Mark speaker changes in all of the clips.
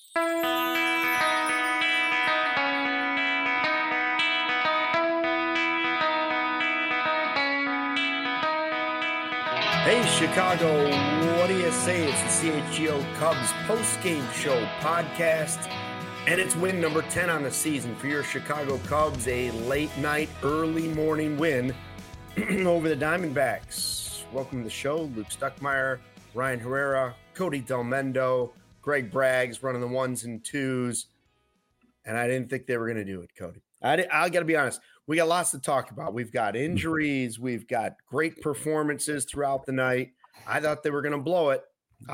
Speaker 1: Hey, Chicago, what do you say? It's the CHGO Cubs post-game show podcast, and it's win number 10 on the season for your Chicago Cubs, a late-night, early-morning win over the Diamondbacks. Welcome to the show. Luke Stuckmeyer, Ryan Herrera, Cody Delmendo, Greg Braggs running the ones and twos, and I didn't think they were going to do it, Cody. I got to be honest. We got lots to talk about. We've got injuries. We've got great performances throughout the night. I thought they were going to blow it.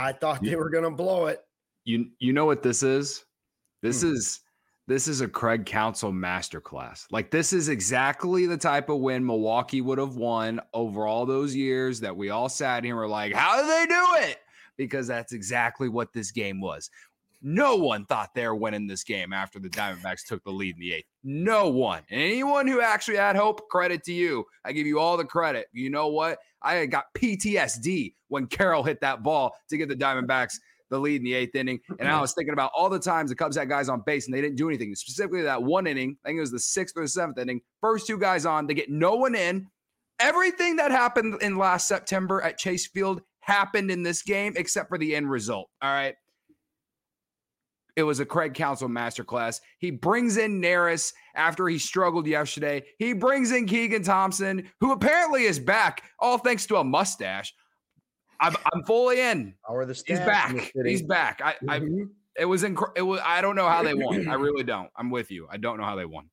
Speaker 2: You know what this is? This is a Craig Counsell masterclass. Like, this is exactly the type of win Milwaukee would have won over all those years that we all sat here and were like, how did they do it? Because that's exactly what this game was. No one thought they were winning this game after the Diamondbacks took the lead in the eighth. No one. And anyone who actually had hope, credit to you. I give you all the credit. You know what? I got PTSD when Carroll hit that ball to give the Diamondbacks the lead in the eighth inning. And I was thinking about all the times the Cubs had guys on base and they didn't do anything. Specifically that one inning, I think it was the sixth or the seventh inning, first two guys on, they get no one in. Everything that happened in last September at Chase Field happened in this game except for the end result. All right. It was a Craig Counsell masterclass. He brings in Neris after he struggled yesterday. He brings in Keegan Thompson, who apparently is back, all thanks to a mustache. I'm fully in. He's back. He's back. It was I don't know how they won. I really don't. I'm with you. I don't know how they won.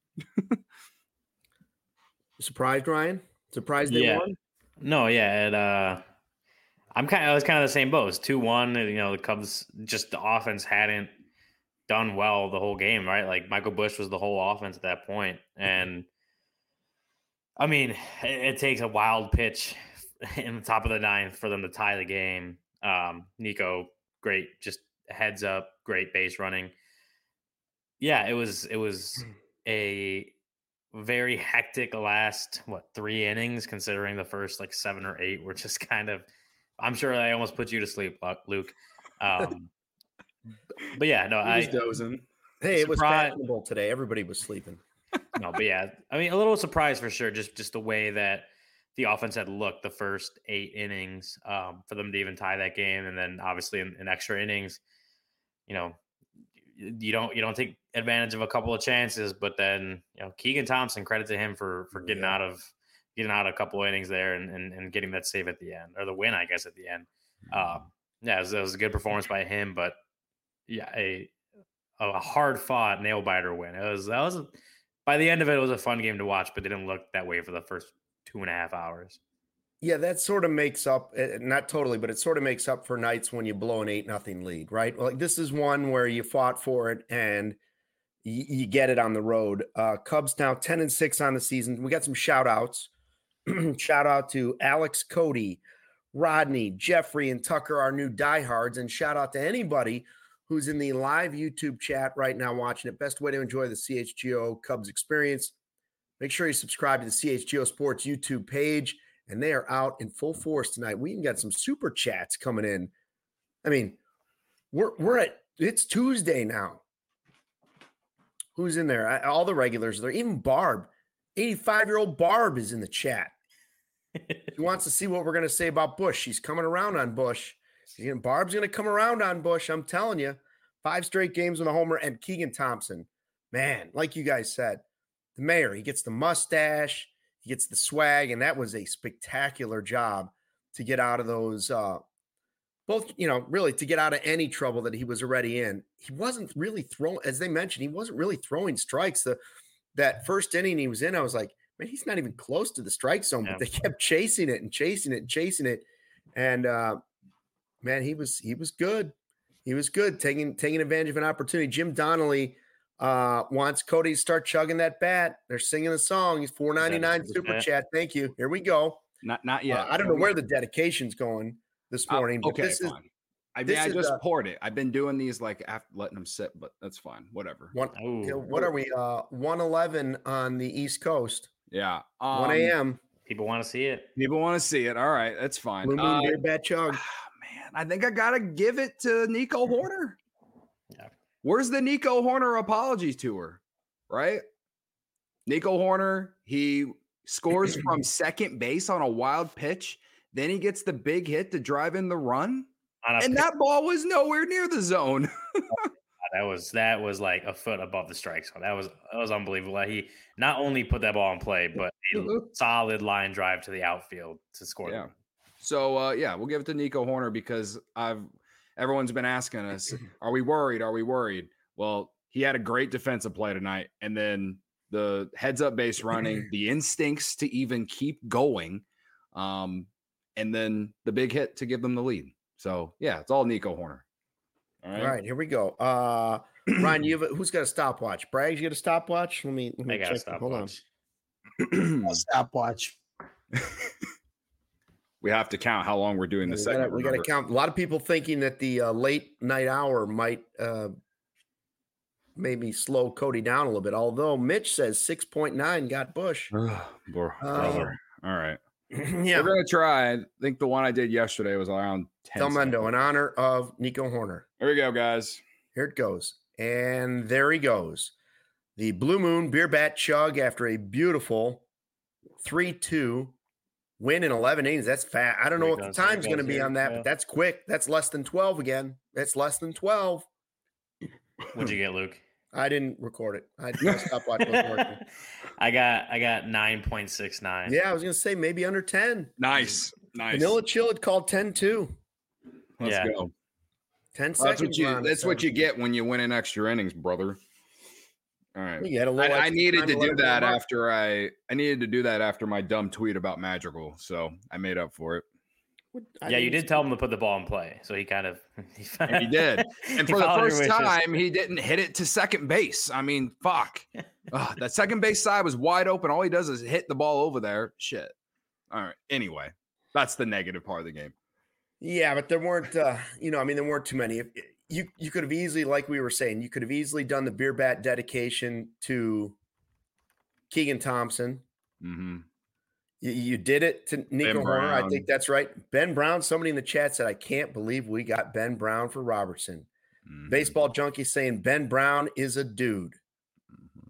Speaker 1: Surprised, Ryan? Surprised they won?
Speaker 3: No, yeah. I was kind of the same boat. It was 2-1. You know, the Cubs, just the offense hadn't done well the whole game, right? Like, Michael Busch was the whole offense at that point. And I mean, it takes a wild pitch in the top of the ninth for them to tie the game. Nico, great, just heads up, great base running. Yeah, it was a very hectic last 3 innings, considering the first 7 or 8 were just kind of, I'm sure I almost put you to sleep, Luke. But yeah, no,
Speaker 1: I was dozing. Hey, it was fashionable today. Everybody was sleeping.
Speaker 3: No, but yeah, I mean, a little surprised for sure. Just the way that the offense had looked the first 8 innings, for them to even tie that game, and then obviously in extra innings, you know, you don't take advantage of a couple of chances, but then, you know, Keegan Thompson, credit to him for getting out of a couple of innings there and getting that save at the end, or the win, I guess, at the end. Yeah, it was a good performance by him, but yeah, a hard fought nail biter win. That was by the end of it, it was a fun game to watch, but didn't look that way for the first 2.5 hours.
Speaker 1: Yeah, that sort of makes up, not totally, but it sort of makes up for nights when you blow an 8-0 lead, right? Like, this is one where you fought for it and you get it on the road. Cubs now 10-6 on the season. We got some shout outs. Shout out to Alex, Cody, Rodney, Jeffrey, and Tucker, our new diehards, and shout out to anybody who's in the live YouTube chat right now watching it. Best way to enjoy the CHGO Cubs experience. Make sure you subscribe to the CHGO Sports YouTube page, and they are out in full force tonight. We even got some super chats coming in. I mean, it's Tuesday now. Who's in there? All the regulars are there. Even Barb, 85-year-old Barb is in the chat. She wants to see what we're going to say about Busch. She's coming around on Busch. Barb's going to come around on Busch. I'm telling you, 5 straight games with a homer. And Keegan Thompson, man, like you guys said, the mayor, he gets the mustache, he gets the swag, and that was a spectacular job to get out of those, really to get out of any trouble that he was already in. He wasn't really throwing, as they mentioned, he wasn't really throwing strikes. That first inning he was in, I was like, man, he's not even close to the strike zone, but they kept chasing it and chasing it and chasing it. And, man, he was good. He was good, taking advantage of an opportunity. Jim Donnelly wants Cody to start chugging that bat. They're singing the song. He's $4.99 super chat. Thank you. Here we go.
Speaker 2: Not yet.
Speaker 1: I don't know where the dedicake's going this morning. But
Speaker 2: okay, fine. I just poured it. I've been doing these after letting them sit, but that's fine. Whatever.
Speaker 1: What are we? 1:11 on the East Coast.
Speaker 2: Yeah.
Speaker 1: 1 a.m.
Speaker 3: People want to see it.
Speaker 2: All right, that's fine.
Speaker 1: Blue Moon Beer Bat Chug.
Speaker 2: Man, I think I gotta give it to Nico Hoerner.
Speaker 3: Yeah.
Speaker 2: Where's the Nico Horner apology tour, right? Nico Horner, he scores from second base on a wild pitch. Then he gets the big hit to drive in the run. And that ball was nowhere near the zone.
Speaker 3: That was like a foot above the strike zone. That was unbelievable. He not only put that ball in play, but a solid line drive to the outfield to score.
Speaker 2: Yeah. So we'll give it to Nico Horner because everyone's been asking us, are we worried? Are we worried? Well, he had a great defensive play tonight, and then the heads up base running, the instincts to even keep going, and then the big hit to give them the lead. So yeah, it's all Nico Horner.
Speaker 1: All right, here we go. Ryan, who's got a stopwatch? Braggs, you got a stopwatch? Let me
Speaker 3: I got
Speaker 1: check.
Speaker 3: a stopwatch.
Speaker 1: Hold on.
Speaker 4: Stopwatch.
Speaker 2: We have to count how long we're doing this segment.
Speaker 1: We got to count. A lot of people thinking that the late night hour might maybe slow Cody down a little bit. Although Mitch says 6.9 got Bush.
Speaker 2: Brother. All right.
Speaker 1: Yeah.
Speaker 2: We're going to try. I think the one I did yesterday was around 10.
Speaker 1: Telmendo in honor of Nico Horner.
Speaker 2: Here we go, guys.
Speaker 1: Here it goes. And there he goes. The Blue Moon beer bat chug after a beautiful 3-2 win in 11 innings. That's fast. I don't know what the time's going to be on that, but that's quick. That's less than 12 again. That's less than 12.
Speaker 3: What'd you get, Luke?
Speaker 1: I didn't record it. I stopped watching. Working.
Speaker 3: I got 9.69.
Speaker 1: Yeah, I was going to say maybe under 10.
Speaker 2: Nice.
Speaker 1: Vanilla Chill had called 10-2.
Speaker 2: Let's go.
Speaker 1: 10 seconds.
Speaker 2: That's what you get when you win in extra innings, brother. All right.
Speaker 1: You had a little
Speaker 2: I needed to do that after I needed to do that after my dumb tweet about Madrigal, so I made up for it.
Speaker 3: Yeah, you did tell him to put the ball in play, so he kind of
Speaker 2: he did. And for the first time, he didn't hit it to second base. I mean, fuck. That second base side was wide open. All he does is hit the ball over there. Shit. All right. Anyway, that's the negative part of the game.
Speaker 1: Yeah, but there weren't, there weren't too many. You could have easily, like we were saying, you could have easily done the beer bat dedication to Keegan Thompson.
Speaker 2: Mm-hmm.
Speaker 1: You did it to Nico Horner. I think that's right. Ben Brown, somebody in the chat said, I can't believe we got Ben Brown for Robertson. Mm-hmm. Baseball Junkie saying Ben Brown is a dude. Mm-hmm.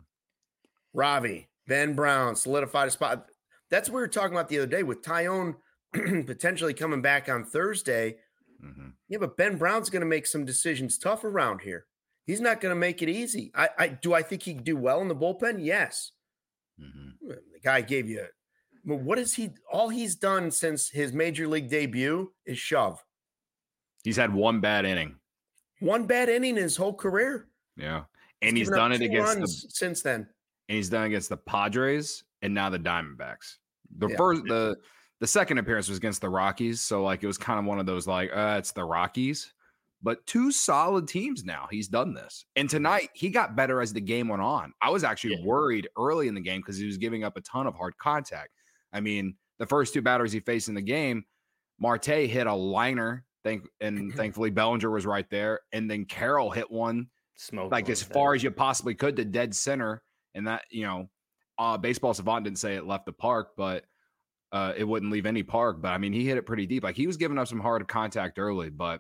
Speaker 1: Ravi, Ben Brown solidified a spot. That's what we were talking about the other day with Tyone potentially coming back on Thursday. Mm-hmm. Yeah, but Ben Brown's going to make some decisions tough around here. He's not going to make it easy. I think he can do well in the bullpen? Yes. Mm-hmm. The guy gave you but what is he? All he's done since his major league debut is shove.
Speaker 2: He's had one bad inning.
Speaker 1: One bad inning in his whole career.
Speaker 2: Yeah, and he's done it against
Speaker 1: since then.
Speaker 2: And he's done it against the Padres and now the Diamondbacks. The second appearance was against the Rockies, so like it was kind of one of those like it's the Rockies, but two solid teams now. He's done this, and tonight he got better as the game went on. I was actually worried early in the game because he was giving up a ton of hard contact. I mean, the first two batters he faced in the game, Marte hit a liner, and thankfully Bellinger was right there. And then Carroll hit one like as far as you possibly could to dead center. And that, Baseball Savant didn't say it left the park, but it wouldn't leave any park. But I mean, he hit it pretty deep. Like he was giving up some hard contact early, but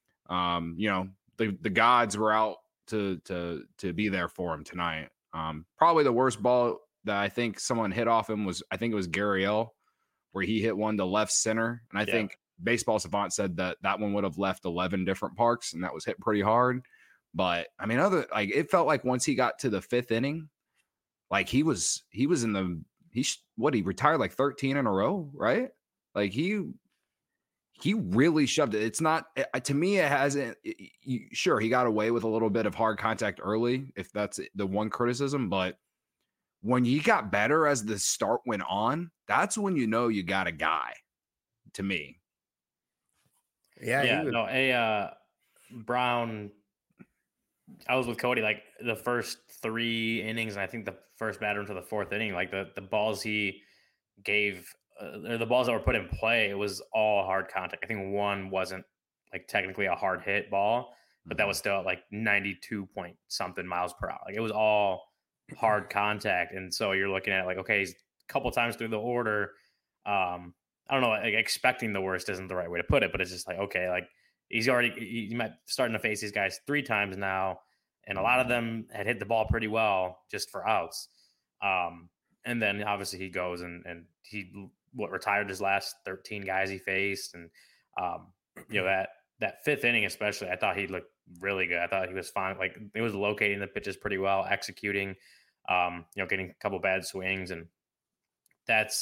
Speaker 2: the gods were out to be there for him tonight. Probably the worst ball that I think someone hit off him was, I think it was Gurriel, where he hit one to left center. And I think Baseball Savant said that one would have left 11 different parks, and that was hit pretty hard. But I mean, it felt like once he got to the fifth inning, like he retired like 13 in a row, right? Like he really shoved it. It's not, to me, it hasn't, sure, he got away with a little bit of hard contact early, if that's the one criticism, but when he got better as the start went on, that's when you know you got a guy, to me.
Speaker 3: Brown, I was with Cody like the first 3 innings, and I think the first batter into the 4th inning, like the balls he gave, or the balls that were put in play, it was all hard contact. I think one wasn't like technically a hard hit ball, but that was still at like 92 point something miles per hour. Like it was all hard contact. And so you're looking at it like, okay, he's a couple times through the order. I don't know, like expecting the worst isn't the right way to put it, but it's just like, okay, like he might starting to face these guys 3 times now. and a lot of them had hit the ball pretty well just for outs. And then obviously he goes and he retired his last 13 guys he faced, and that fifth inning especially, I thought he looked really good. I thought he was fine. Like, it was locating the pitches pretty well, executing, getting a couple bad swings, and that's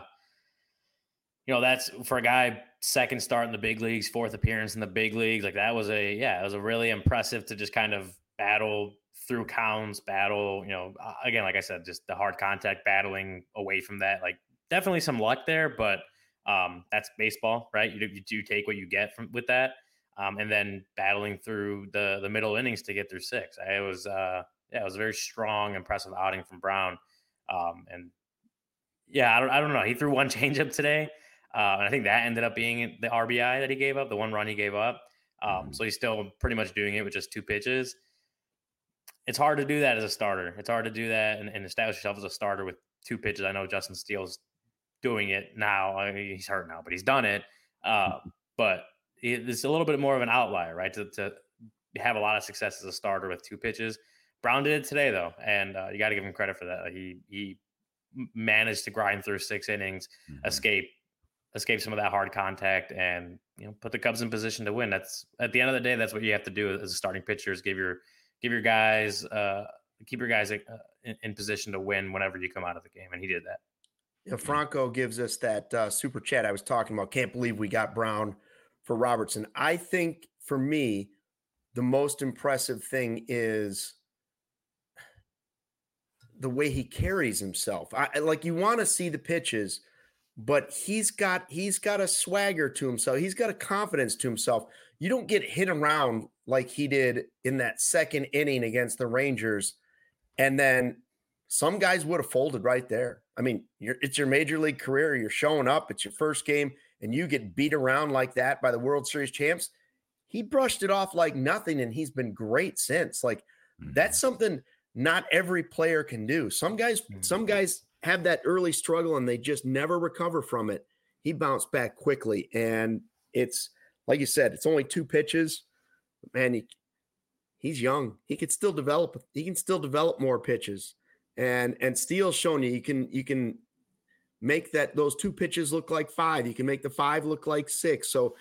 Speaker 3: that's for a guy second start in the big leagues, fourth appearance in the big leagues. Like, it was a really impressive to just kind of battle through counts, again, like I said, just the hard contact, battling away from that. Like, definitely some luck there, but that's baseball, right? You do take what you get with that, and then battling through the middle innings to get through six. It was a very strong, impressive outing from Brown, and yeah, I don't know. He threw one changeup today, and I think that ended up being the RBI that he gave up, the one run he gave up. So he's still pretty much doing it with just two pitches. It's hard to do that as a starter. It's hard to do that and establish yourself as a starter with two pitches. I know Justin Steele's doing it now. I mean, he's hurt now, but he's done it. But it's a little bit more of an outlier, right? To have a lot of success as a starter with two pitches. Brown did it today, though, and you got to give him credit for that. He managed to grind through 6 innings, escape some of that hard contact, and put the Cubs in position to win. That's, at the end of the day, that's what you have to do as a starting pitcher, is keep your guys in position to win whenever you come out of the game, and he did that.
Speaker 1: Franco gives us that super chat I was talking about. Can't believe we got Brown for Robertson. I think, for me, the most impressive thing is the way he carries himself. You want to see the pitches, but he's got a swagger to himself. He's got a confidence to himself. You don't get hit around like he did in that second inning against the Rangers. And then some guys would have folded right there. I mean, it's your major league career. You're showing up. It's your first game, and you get beat around like that by the World Series champs. He brushed it off like nothing, and he's been great since. That's something not every player can do. Some guys have that early struggle and they just never recover from it. He bounced back quickly, and it's like you said, it's only 2 pitches. Man, he's young. He can still develop more pitches. And Steele's shown you can make those 2 pitches look like 5. You can make the 5 look like 6. So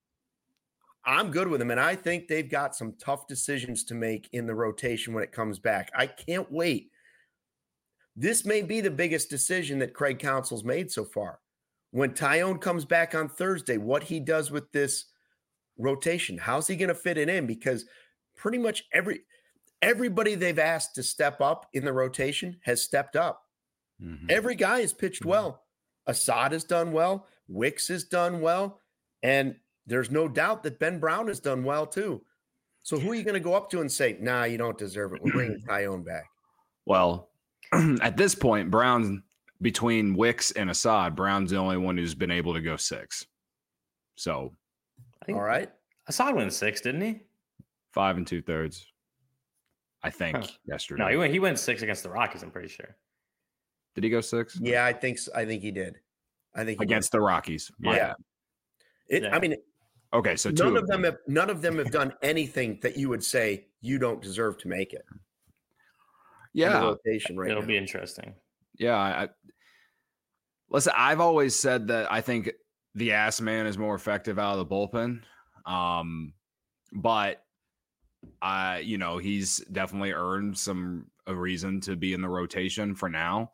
Speaker 1: I'm good with him, and I think they've got some tough decisions to make in the rotation when it comes back. I can't wait. This may be the biggest decision that Craig Counsell's made so far. When Taillon comes back on Thursday, what he does with this rotation, how's he going to fit it in? Because pretty much everybody they've asked to step up in the rotation has stepped up. Every guy has pitched well. Assad has done well. Wicks has done well. And there's no doubt that Ben Brown has done well too. So who are you going to go up to and say, nah, you don't deserve it? We're bringing Taillon back.
Speaker 2: Well, at this point, Brown, between Wicks and Assad, Brown's the only one who's been able to go 6. So,
Speaker 1: all right.
Speaker 3: Assad went 6, didn't he?
Speaker 2: 5 2/3. I think yesterday.
Speaker 3: No, he went 6 against the Rockies, I'm pretty sure.
Speaker 2: Did he go 6?
Speaker 1: Yeah, I think he did. I think
Speaker 2: against the Rockies.
Speaker 1: Yeah. I mean,
Speaker 2: okay, so
Speaker 1: none of them have done anything that you would say you don't deserve to make it.
Speaker 2: Yeah,
Speaker 3: it'll be interesting.
Speaker 2: Yeah, listen, I've always said that I think the ass man is more effective out of the bullpen, but he's definitely earned a reason to be in the rotation for now.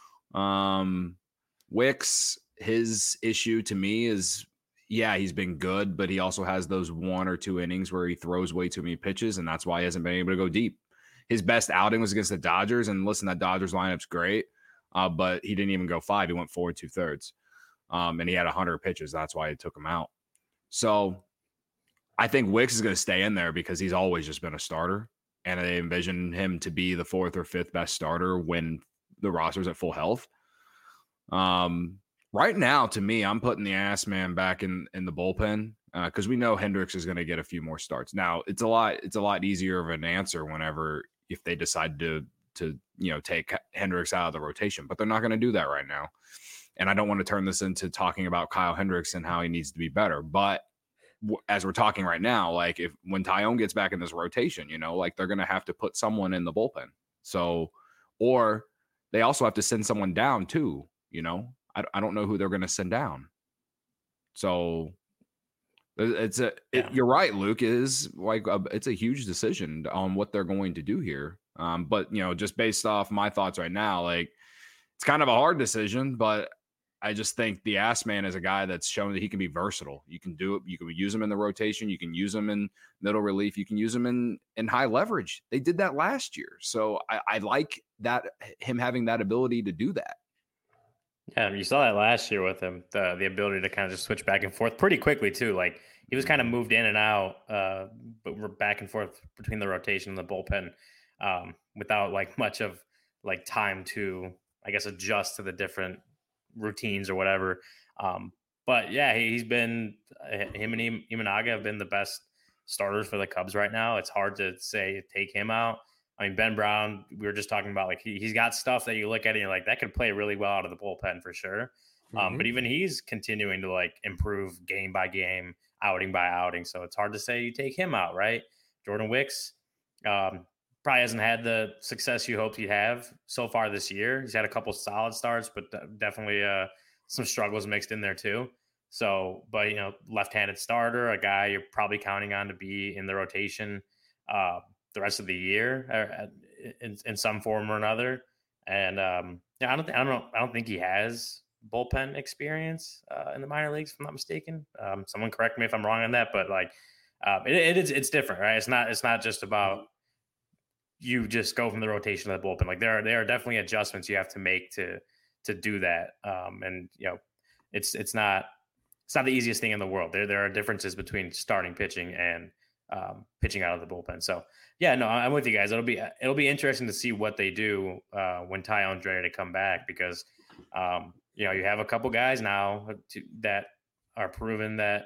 Speaker 2: Wicks, his issue to me is, he's been good, but he also has those 1 or 2 innings where he throws way too many pitches, and that's why he hasn't been able to go deep. His best outing was against the Dodgers, and listen, that Dodgers lineup's great, but he didn't even go 5. He went 4 2/3, and he had 100 pitches. That's why he took him out. So I think Wicks is going to stay in there because he's always just been a starter, and I envision him to be the 4th or 5th best starter when the roster's at full health. Right now, to me, I'm putting the ass man back in the bullpen because we know Hendricks is going to get a few more starts. Now, it's a lot easier of an answer if they decide to take Hendricks out of the rotation, but they're not going to do that right now. And I don't want to turn this into talking about Kyle Hendricks and how he needs to be better, but as we're talking right now, like when Tyone gets back in this rotation, like they're going to have to put someone in the bullpen. So, or they also have to send someone down too, I don't know who they're going to send down. So you're right, Luke, is like it's a huge decision on what they're going to do here. But just based off my thoughts right now, like it's kind of a hard decision, but I just think the ass man is a guy that's shown that he can be versatile. You can do it. You can use him in the rotation. You can use him in middle relief. You can use him in high leverage. They did that last year. So I like that, him having that ability to do that.
Speaker 3: Yeah, you saw that last year with him, the ability to kind of just switch back and forth pretty quickly too. Like he was kind of moved in and out, but we're back and forth between the rotation and the bullpen without like much of like time to, I guess, adjust to the different routines or whatever. But yeah, he's been, him and Imanaga have been the best starters for the Cubs right now. It's hard to say take him out. I mean, Ben Brown, we were just talking about, like, he's got stuff that you look at and you're like, that could play really well out of the bullpen for sure. But even he's continuing to like improve game by game, outing by outing. So it's hard to say you take him out, right? Jordan Wicks probably hasn't had the success you hoped he'd have so far this year. He's had a couple solid starts, but definitely some struggles mixed in there too. So, but left-handed starter, a guy you're probably counting on to be in the rotation the rest of the year in some form or another. And I don't think he has bullpen experience in the minor leagues, if I'm not mistaken. Someone correct me if I'm wrong on that, but like it's different, right? It's not just about you just go from the rotation to the bullpen. Like there are definitely adjustments you have to make to do that. And it's not the easiest thing in the world. There are differences between starting pitching and pitching out of the bullpen. So yeah, no, I'm with you guys. It'll be interesting to see what they do when Tyone's ready to come back, because you have a couple guys now that are proven that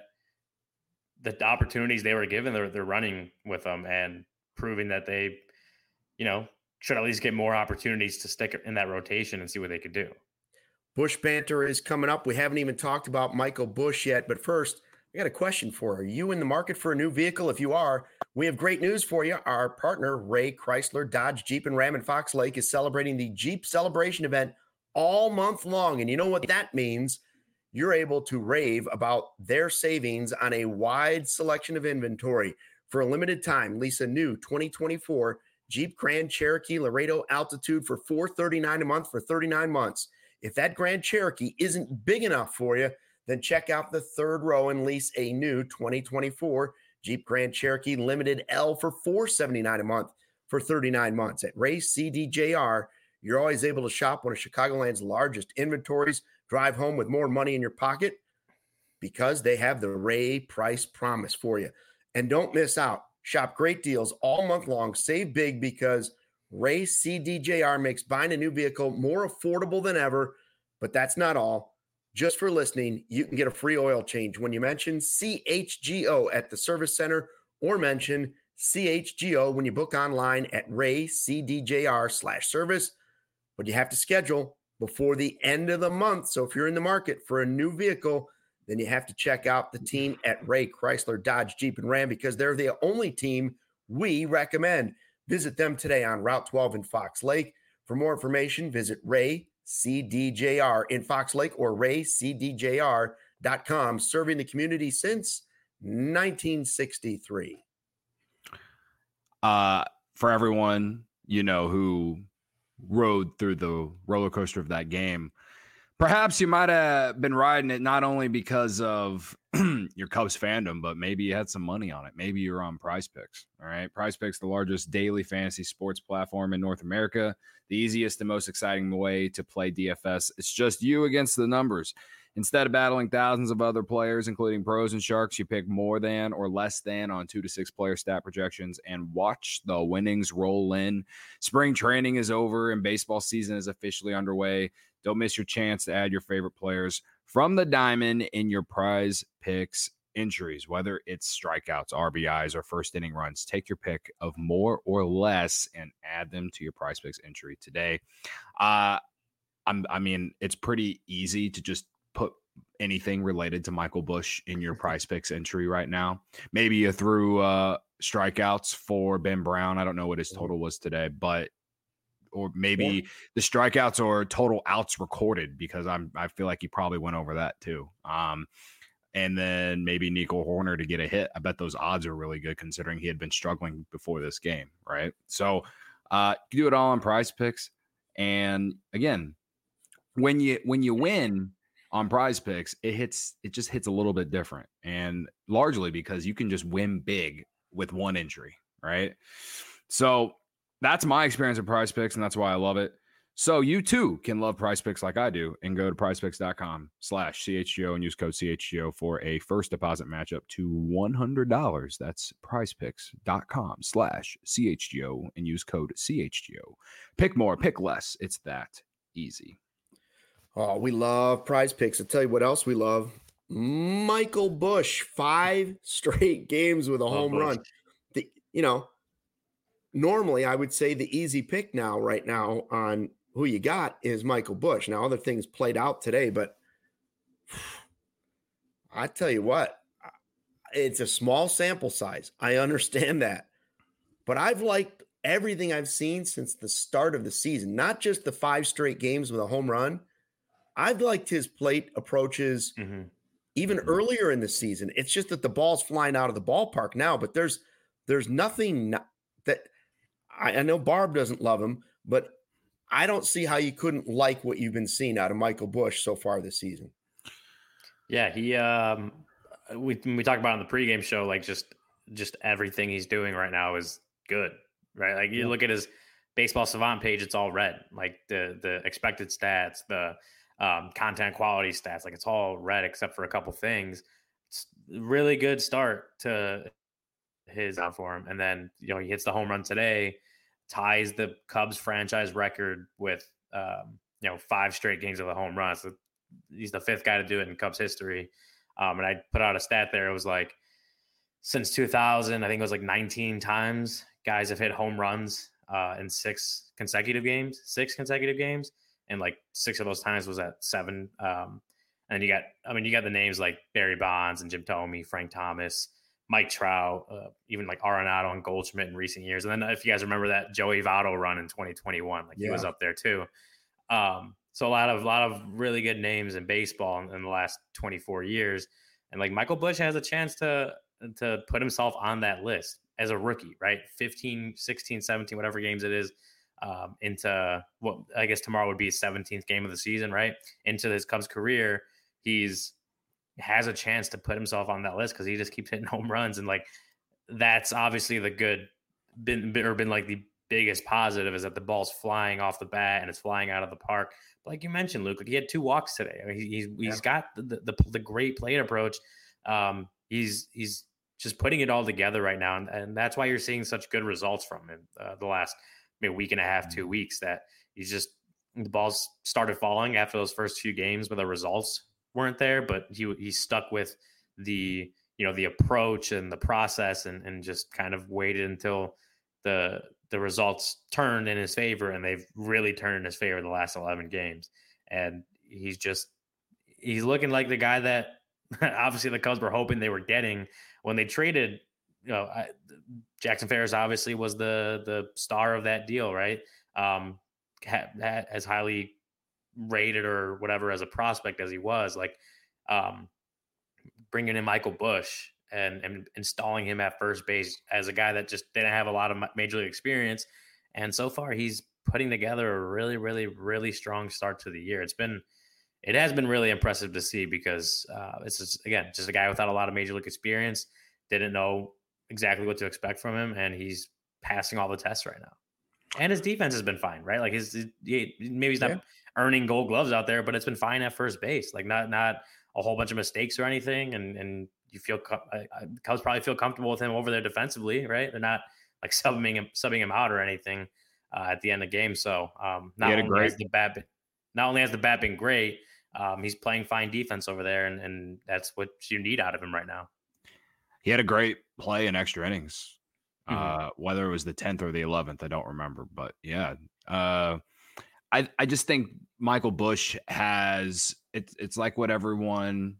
Speaker 3: the opportunities they were given, they're running with them and proving that they, should at least get more opportunities to stick in that rotation and see what they could do.
Speaker 1: Busch Banter is coming up. We haven't even talked about Michael Busch yet, but first, I got a question for you. Are you in the market for a new vehicle? If you are, we have great news for you. Our partner, Ray Chrysler, Dodge, Jeep, and Ram in Fox Lake, is celebrating the Jeep Celebration event all month long. And you know what that means? You're able to rave about their savings on a wide selection of inventory. For a limited time, lease a new 2024 Jeep Grand Cherokee Laredo Altitude for $439 a month for 39 months. If that Grand Cherokee isn't big enough for you, then check out the third row and lease a new 2024 Jeep Grand Cherokee Limited L for $479 a month for 39 months. At Ray CDJR, you're always able to shop one of Chicagoland's largest inventories, drive home with more money in your pocket, because they have the Ray price promise for you. And don't miss out. Shop great deals all month long. Save big, because Ray CDJR makes buying a new vehicle more affordable than ever. But that's not all. Just for listening, you can get a free oil change when you mention CHGO at the service center, or mention CHGO when you book online at raycdjr/service. But you have to schedule before the end of the month. So if you're in the market for a new vehicle, then you have to check out the team at Ray Chrysler, Dodge, Jeep, and Ram, because they're the only team we recommend. Visit them today on Route 12 in Fox Lake. For more information, visit Ray CDJR in Fox Lake or raycdjr.com, serving the community since 1963.
Speaker 2: For everyone, who rode through the roller coaster of that game, perhaps you might have been riding it not only because of your Cubs fandom, but maybe you had some money on it. Maybe you're on Prize Picks. All right. Prize Picks, the largest daily fantasy sports platform in North America, the easiest and most exciting way to play DFS. It's just you against the numbers. Instead of battling thousands of other players, including pros and sharks, you pick more than or less than on 2 to 6 player stat projections and watch the winnings roll in. Spring training is over and baseball season is officially underway. Don't miss your chance to add your favorite players from the diamond in your Prize Picks entries, whether it's strikeouts, RBIs, or first inning runs. Take your pick of more or less and add them to your Prize Picks entry today. It's pretty easy to just put anything related to Michael Busch in your Prize Picks entry right now. Maybe you threw strikeouts for Ben Brown. I don't know what his total was today, but or maybe the strikeouts or total outs recorded, because I feel like he probably went over that too. And then maybe Nico Horner to get a hit. I bet those odds are really good considering he had been struggling before this game, right? So you do it all on Prize Picks. And again, when you win on Prize Picks, it just hits a little bit different, and largely because you can just win big with one entry, right? So that's my experience with Prize Picks, and that's why I love it. So you too can love Prize Picks like I do, and go to prizepicks.com/CHGO and use code CHGO for a first deposit match up to $100. That's prizepicks.com/CHGO and use code CHGO. Pick more, pick less. It's that easy.
Speaker 1: Oh, we love Prize Picks. I'll tell you what else we love. Michael Busch, 5 straight games with a home run. Normally I would say the easy pick right now on who you got is Michael Busch. Now, other things played out today, but I tell you what, it's a small sample size. I understand that, but I've liked everything I've seen since the start of the season, not just the 5 straight games with a home run. I've liked his plate approaches even earlier in the season. It's just that the ball's flying out of the ballpark now, but there's nothing that I know Barb doesn't love him, but I don't see how you couldn't like what you've been seeing out of Michael Busch so far this season.
Speaker 3: Yeah, he we talked about on the pregame show, like just everything he's doing right now is good, right? Like you look at his Baseball Savant page, it's all red. Like the expected stats, the content quality stats, like it's all red except for a couple things. It's a really good start to his for him, and then he hits the home run today, ties the Cubs franchise record with 5 straight games of a home run. So he's the 5th guy to do it in Cubs history. And I put out a stat there. It was like since 2000, I think it was like 19 times guys have hit home runs in 6 consecutive games, and like 6 of those times was at 7. And you got the names like Barry Bonds and Jim Thome, Frank Thomas, Mike Trout, even like Arenado and Goldschmidt in recent years. And then if you guys remember that Joey Votto run in 2021, he was up there too. So a lot of really good names in baseball in the last 24 years. And like Michael Busch has a chance to put himself on that list as a rookie, right? 15, 16, 17, whatever games it is, into what I guess tomorrow would be his 17th game of the season, right? Into his Cubs career, has a chance to put himself on that list because he just keeps hitting home runs. And like, that's obviously been like the biggest positive is that the ball's flying off the bat and it's flying out of the park. But like you mentioned, Luke, he had 2 walks today. I mean, he's got the great plate approach. He's just putting it all together right now. And that's why you're seeing such good results from him the last week and a half, 2 weeks, that the balls started falling after those first few games, but the results weren't there, but he stuck with the approach and the process and just kind of waited until the results turned in his favor, and they've really turned in his favor the last 11 games. And he's looking like the guy that obviously the Cubs were hoping they were getting when they traded. Jackson Ferris obviously was the star of that deal, right? As highly rated or whatever as a prospect as he was, like bringing in Michael Busch and installing him at first base as a guy that just didn't have a lot of major league experience. And so far he's putting together a really, really, really strong start to the year. It has been really impressive to see because it's just a guy without a lot of major league experience, didn't know exactly what to expect from him. And he's passing all the tests right now. And his defense has been fine, right? Like maybe he's not earning Gold Gloves out there, but it's been fine at first base. Like not a whole bunch of mistakes or anything. And you feel Cubs probably feel comfortable with him over there defensively, right? They're not like subbing him out or anything at the end of the game. So not only has the bat been great, he's playing fine defense over there, and that's what you need out of him right now.
Speaker 2: He had a great play in extra innings. Whether it was the 10th or the 11th, I don't remember, but yeah. I just think Michael Busch has it's like what everyone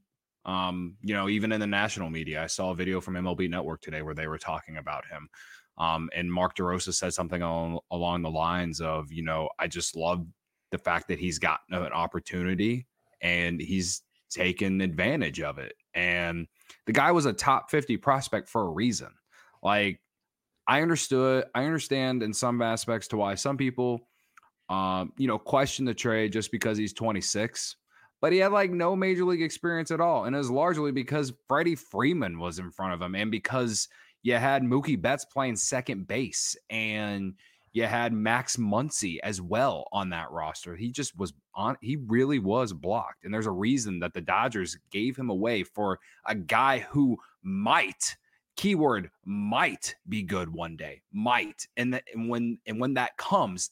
Speaker 2: even in the national media. I saw a video from MLB Network today where they were talking about him. And Mark DeRosa said something along the lines of, I just love the fact that he's gotten an opportunity and he's taken advantage of it. And the guy was a top 50 prospect for a reason. Like, I understand in some aspects to why some people, question the trade just because he's 26, but he had like no major league experience at all. And it was largely because Freddie Freeman was in front of him and because you had Mookie Betts playing second base and you had Max Muncy as well on that roster. He really was blocked. And there's a reason that the Dodgers gave him away for a guy who might, keyword, might be good one day, might. And when that comes,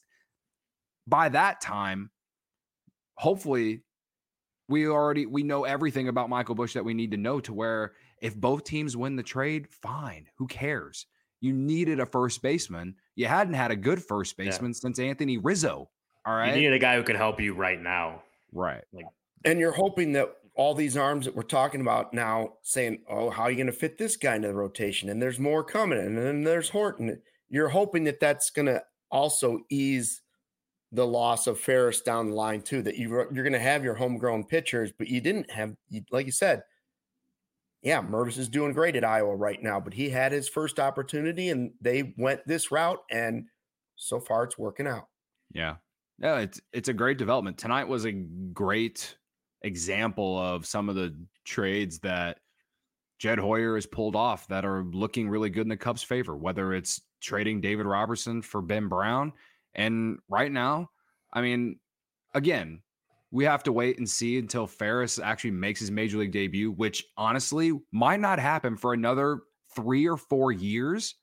Speaker 2: by that time, hopefully we know everything about Michael Busch that we need to know, to where if both teams win the trade, fine, who cares? You needed a first baseman. You hadn't had a good first baseman since Anthony Rizzo. All right.
Speaker 3: You needed a guy who could help you right now.
Speaker 2: Right.
Speaker 1: And you're hoping that all these arms that we're talking about now, saying, oh, how are you going to fit this guy into the rotation? And there's more coming. And then there's Horton. You're hoping that that's going to also ease the loss of Ferris down the line too, that you're going to have your homegrown pitchers, but you didn't have, like you said, yeah, Mervis is doing great at Iowa right now, but he had his first opportunity and they went this route, and so far it's working out.
Speaker 2: Yeah. Yeah, it's a great development. Tonight was a great example of some of the trades that Jed Hoyer has pulled off that are looking really good in the Cubs' favor, whether it's trading David Robertson for Ben Brown. And right now, I mean, again, we have to wait and see until Ferris actually makes his major league debut, which honestly might not happen for another 3 or 4 years.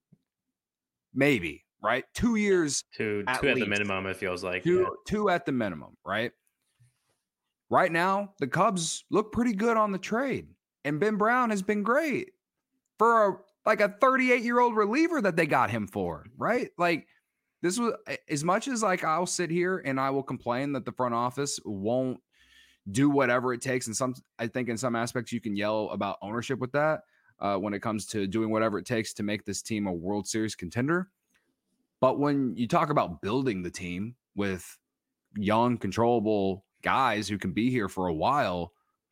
Speaker 2: Maybe, right? 2 years.
Speaker 3: Two at the minimum, it feels like.
Speaker 2: Two at the minimum, right? Right now, the Cubs look pretty good on the trade. And Ben Brown has been great for a 38-year-old reliever that they got him for, right? Like, this was, as much as like I'll sit here and I will complain that the front office won't do whatever it takes. And I think in some aspects you can yell about ownership with that when it comes to doing whatever it takes to make this team a World Series contender. But when you talk about building the team with young, controllable guys who can be here for a while,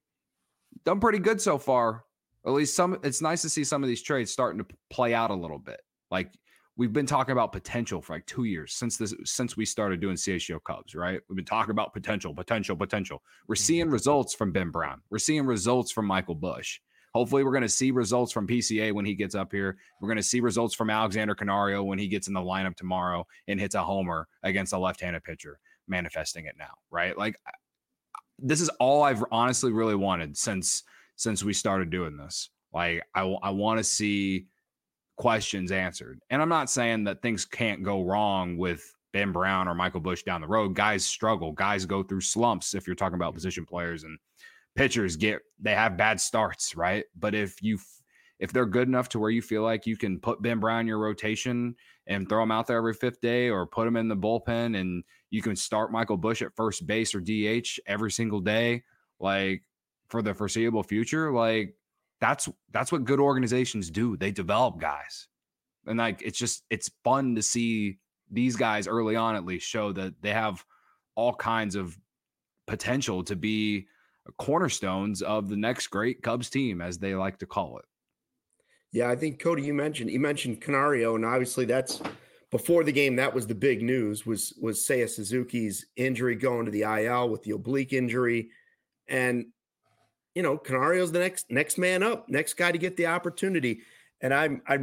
Speaker 2: done pretty good so far. At least it's nice to see some of these trades starting to play out a little bit. Like, we've been talking about potential for like 2 years since we started doing CHGO Cubs, right? We've been talking about potential. We're seeing results from Ben Brown. We're seeing results from Michael Busch. Hopefully we're going to see results from PCA when he gets up here. We're going to see results from Alexander Canario when he gets in the lineup tomorrow and hits a homer against a left-handed pitcher, manifesting it now, right? Like, this is all I've honestly really wanted since we started doing this. Like, I want to see questions answered. And I'm not saying that things can't go wrong with Ben Brown or Michael Busch down the road. Guys struggle. Guys go through slumps if you're talking about position players, and pitchers they have bad starts, right? But if they're good enough to where you feel like you can put Ben Brown in your rotation and throw him out there every fifth day, or put him in the bullpen and you can start Michael Busch at first base or DH every single day, like for the foreseeable future, like that's what good organizations do. They develop guys. And like, it's fun to see these guys early on, at least, show that they have all kinds of potential to be cornerstones of the next great Cubs team, as they like to call it.
Speaker 1: Yeah, I think, Cody, you mentioned Canario, and obviously that's before the game. That was the big news, was Seiya Suzuki's injury, going to the IL with the oblique injury. And, Canario's the next man up, next guy to get the opportunity. And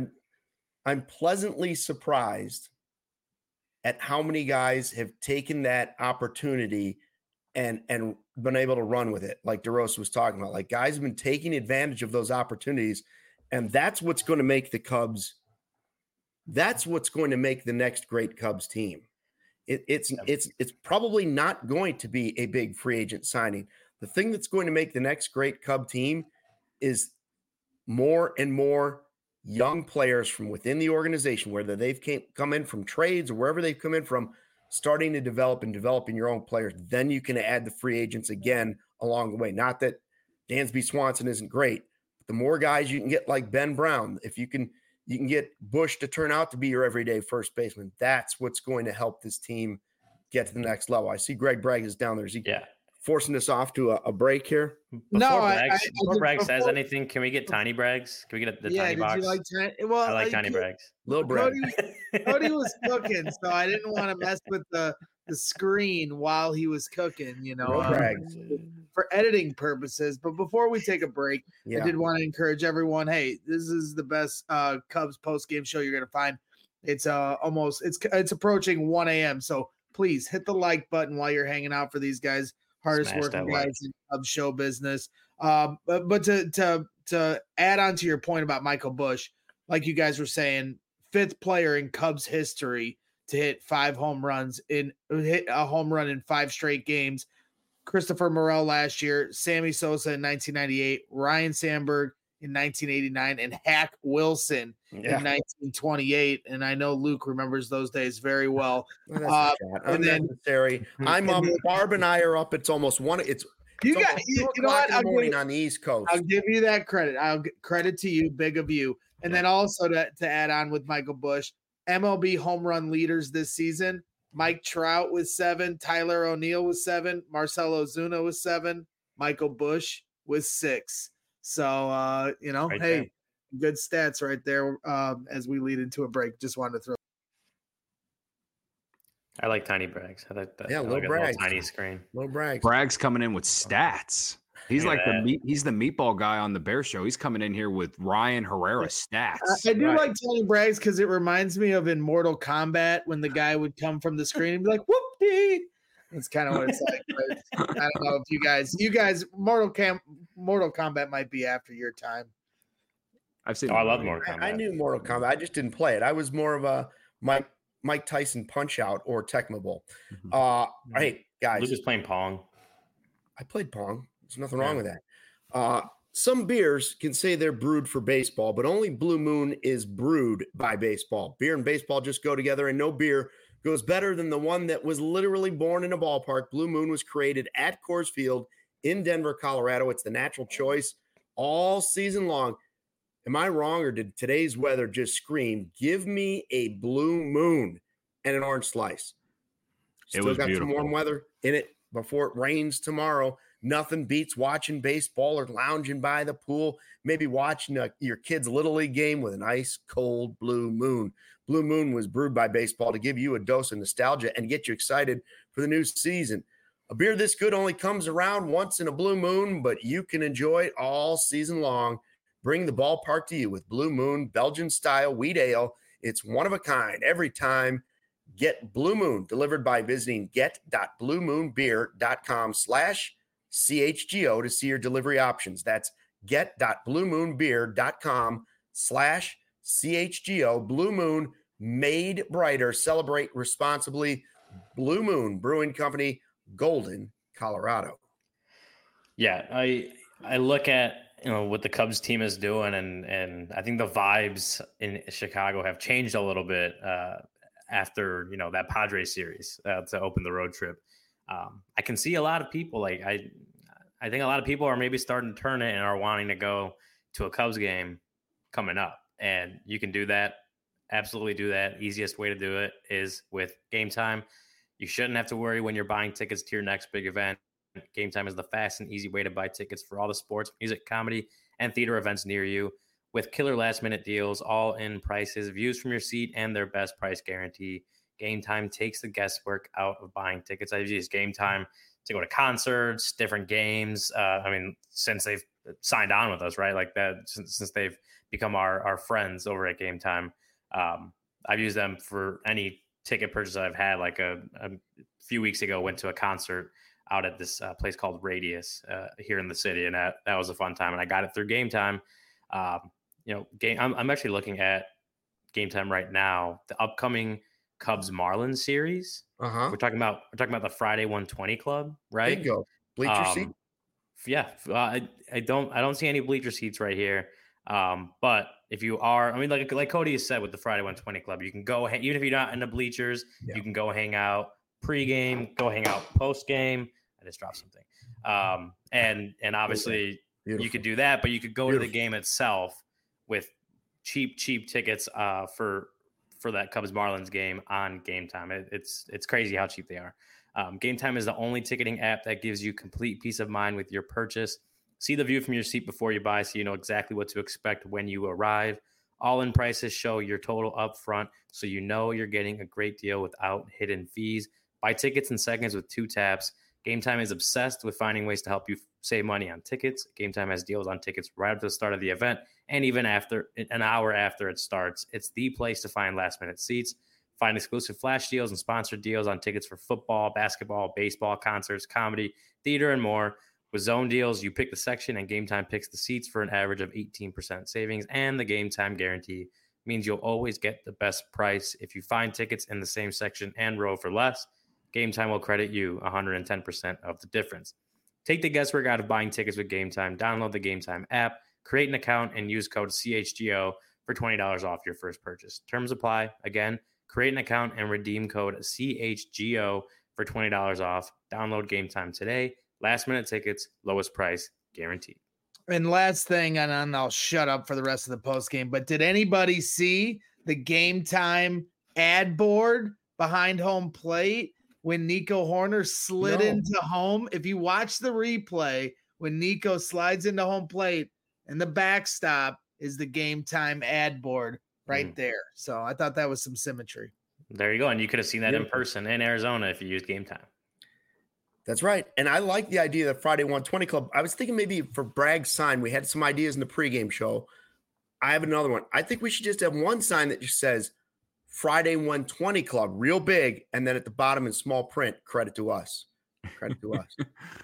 Speaker 1: I'm pleasantly surprised at how many guys have taken that opportunity and been able to run with it. Like DeRosa was talking about, like, guys have been taking advantage of those opportunities. And that's what's going to make the Cubs. That's what's going to make the next great Cubs team. It's probably not going to be a big free agent signing. The thing that's going to make the next great Cub team is more and more young players from within the organization, whether they've come in from trades or wherever they've come in from, starting to develop and developing your own players. Then you can add the free agents again along the way. Not that Dansby Swanson isn't great, but the more guys you can get like Ben Brown, if you can get Bush to turn out to be your everyday first baseman. That's what's going to help this team get to the next level. I see Greg Bragg is down there. Is he forcing us off to a break here?
Speaker 3: Before Bragg says anything, can we get Tiny Braggs? Can we get the Tiny box?
Speaker 4: You like I
Speaker 3: like Tiny Braggs.
Speaker 1: Little Bragg.
Speaker 4: Cody was cooking, so I didn't want to mess with the screen while he was cooking, for editing purposes. But before we take a break, I did want to encourage everyone, hey, this is the best Cubs post-game show you're going to find. It's it's approaching 1 a.m. So please hit the like button while you're hanging out for these guys, hardest working guys in Cubs show business. But to add on to your point about Michael Bush, like you guys were saying, 5th player in Cubs history to hit 5 home runs hit a home run in 5 straight games. Christopher Morel last year, Sammy Sosa in 1998, Ryan Sandberg in 1989, and Hack Wilson in 1928. And I know Luke remembers those days very well.
Speaker 1: Unnecessary. I'm up. Barb and I are up. It's almost 1. You know what? On the East Coast.
Speaker 4: I'll give you that credit. I'll get credit to you, big of you. And then also to add on with Michael Bush, MLB home run leaders this season. Mike Trout with 7, Tyler O'Neill with 7, Marcell Ozuna with 7, Michael Bush with 6. So, hey, good stats right there as we lead into a break. Just wanted to throw.
Speaker 3: I like Tiny Braggs. I like that.
Speaker 1: Little Braggs.
Speaker 3: Tiny screen.
Speaker 1: Little Braggs.
Speaker 2: Bragg's coming in with stats. He's he's the meatball guy on the Bear Show. He's coming in here with Ryan Herrera stats.
Speaker 4: I do like Tiny Braggs because it reminds me of in Mortal Kombat when the guy would come from the screen and be like, whoopee. That's kind of what it's like. But I don't know if you guys, Mortal Kombat might be after your time.
Speaker 2: I've seen.
Speaker 3: I love Mortal Kombat.
Speaker 1: I knew Mortal Kombat. I just didn't play it. I was more of a Mike Tyson Punch Out or Tecmo Bowl. Hey guys,
Speaker 3: Luke is playing Pong.
Speaker 1: I played Pong. There's nothing wrong with that. Some beers can say they're brewed for baseball, but only Blue Moon is brewed by baseball. Beer and baseball just go together, and no beer goes better than the one that was literally born in a ballpark. Blue Moon was created at Coors Field in Denver, Colorado. It's the natural choice all season long. Am I wrong, or did today's weather just scream, give me a Blue Moon and an orange slice? Still got beautiful. Some warm weather in it before it rains tomorrow. Nothing beats watching baseball or lounging by the pool, maybe watching your kid's Little League game with an ice cold Blue Moon. Blue Moon was brewed by baseball to give you a dose of nostalgia and get you excited for the new season. A beer this good only comes around once in a blue moon, but you can enjoy it all season long. Bring the ballpark to you with Blue Moon Belgian-style wheat ale. It's one of a kind every time. Get Blue Moon delivered by visiting get.bluemoonbeer.com/CHGO to see your delivery options. That's get.bluemoonbeer.com/CHGO. Blue Moon, made brighter. Celebrate responsibly. Blue Moon Brewing Company, Golden, Colorado.
Speaker 3: Yeah, I look at what the Cubs team is doing, and I think the vibes in Chicago have changed a little bit after that Padres series to open the road trip. I can see a lot of people I think a lot of people are maybe starting to turn it and are wanting to go to a Cubs game coming up, and you can do that. Absolutely do that. Easiest way to do it is with Game Time. You shouldn't have to worry when you're buying tickets to your next big event. Game Time is the fast and easy way to buy tickets for all the sports, music, comedy, and theater events near you with killer last-minute deals, all-in prices, views from your seat, and their best price guarantee. Game Time takes the guesswork out of buying tickets. I've used Game Time to go to concerts, different games. Since they've signed on with us, right? Like that, since they've become our friends over at Game Time. I've used them for any ticket purchase I've had. Like a few weeks ago, went to a concert out at this place called Radius here in the city, and that was a fun time. And I got it through Game Time. I'm actually looking at Game Time right now. The upcoming Cubs Marlins series. We're talking about the Friday 120 Club, right?
Speaker 1: Bingo. Bleacher seat.
Speaker 3: Yeah, I don't see any bleacher seats right here. But if you are, like Cody has said with the Friday 120 Club, you can go even if you're not in the bleachers, you can go hang out pregame, go hang out postgame. I just dropped something. And obviously you could do that, but you could go to the game itself with cheap tickets for that Cubs Marlins game on Game Time. It's crazy how cheap they are. Game Time is the only ticketing app that gives you complete peace of mind with your purchase. See the view from your seat before you buy, so you know exactly what to expect when you arrive. All-in prices show your total up front, so you know you're getting a great deal without hidden fees. Buy tickets in seconds with 2 taps. Game Time is obsessed with finding ways to help you save money on tickets. Game Time has deals on tickets right up to the start of the event, and even after an hour after it starts. It's the place to find last-minute seats. Find exclusive flash deals and sponsored deals on tickets for football, basketball, baseball, concerts, comedy, theater, and more. With zone deals, you pick the section and Game Time picks the seats for an average of 18% savings. And the Game Time guarantee means you'll always get the best price. If you find tickets in the same section and row for less, Game Time will credit you 110% of the difference. Take the guesswork out of buying tickets with Game Time. Download the Game Time app, create an account, and use code CHGO for $20 off your first purchase. Terms apply. Again, create an account and redeem code CHGO for $20 off. Download Game Time today. Last minute tickets, lowest price guaranteed.
Speaker 4: And last thing, and I'll shut up for the rest of the post game, but did anybody see the Game Time ad board behind home plate when Nico Horner slid into home? If you watch the replay, when Nico slides into home plate and the backstop is the Game Time ad board right there. So I thought that was some symmetry.
Speaker 3: There you go. And you could have seen that in person in Arizona if you used Game Time.
Speaker 1: That's right. And I like the idea of the Friday 120 Club. I was thinking maybe for Bragg's sign, we had some ideas in the pregame show. I have another one. I think we should just have one sign that just says Friday 120 Club, real big, and then at the bottom in small print, credit to us. Credit to us.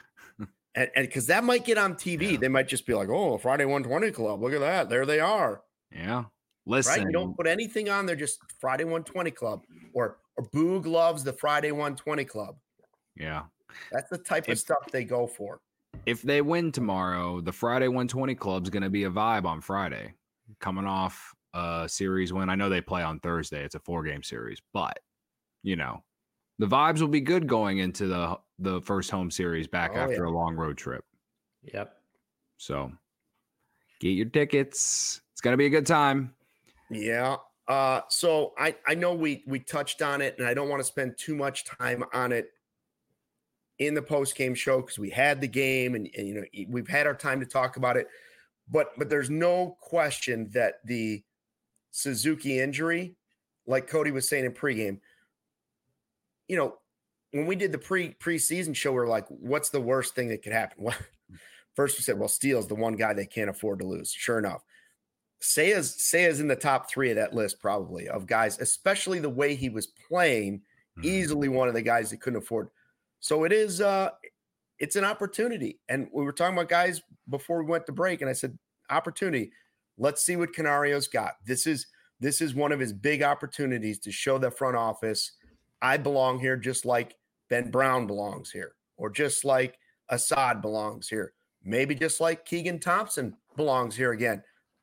Speaker 1: And because that might get on TV. Yeah. They might just be like, oh, Friday 120 Club. Look at that. There they are.
Speaker 2: Yeah. Listen.
Speaker 1: Right? You don't put anything on there, just Friday 120 Club. Or Boog loves the Friday 120 Club.
Speaker 2: Yeah.
Speaker 1: That's the type of stuff they go for.
Speaker 2: If they win tomorrow, the Friday 120 Club's going to be a vibe on Friday. Coming off a series win. I know they play on Thursday. It's a 4-game series. But, you know, the vibes will be good going into the first home series back after a long road trip.
Speaker 3: Yep.
Speaker 2: So, get your tickets. It's going to be a good time.
Speaker 1: Yeah. So, I know we touched on it, and I don't want to spend too much time on it in the post-game show because we had the game and you know we've had our time to talk about it, but there's no question that the Suzuki injury, like Cody was saying in pregame, you know, when we did the preseason show, we were like, what's the worst thing that could happen? Well, first we said, well, Steele's the one guy they can't afford to lose. Sure enough, Seiya's in the top 3 of that list probably of guys, especially the way he was playing, easily one of the guys that couldn't afford. So it is, it's an opportunity. And we were talking about guys before we went to break, and I said, opportunity. Let's see what Canario's got. This is one of his big opportunities to show the front office, I belong here just like Ben Brown belongs here, or just like Assad belongs here. Maybe just like Keegan Thompson belongs here again.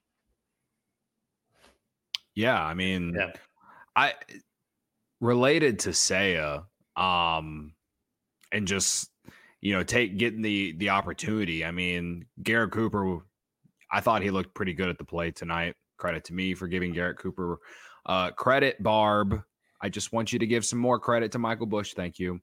Speaker 2: Yeah, I mean, I related to Seiya, and just, you know, getting the opportunity. I mean, Garrett Cooper, I thought he looked pretty good at the plate tonight. Credit to me for giving Garrett Cooper credit, Barb. I just want you to give some more credit to Michael Busch. Thank you.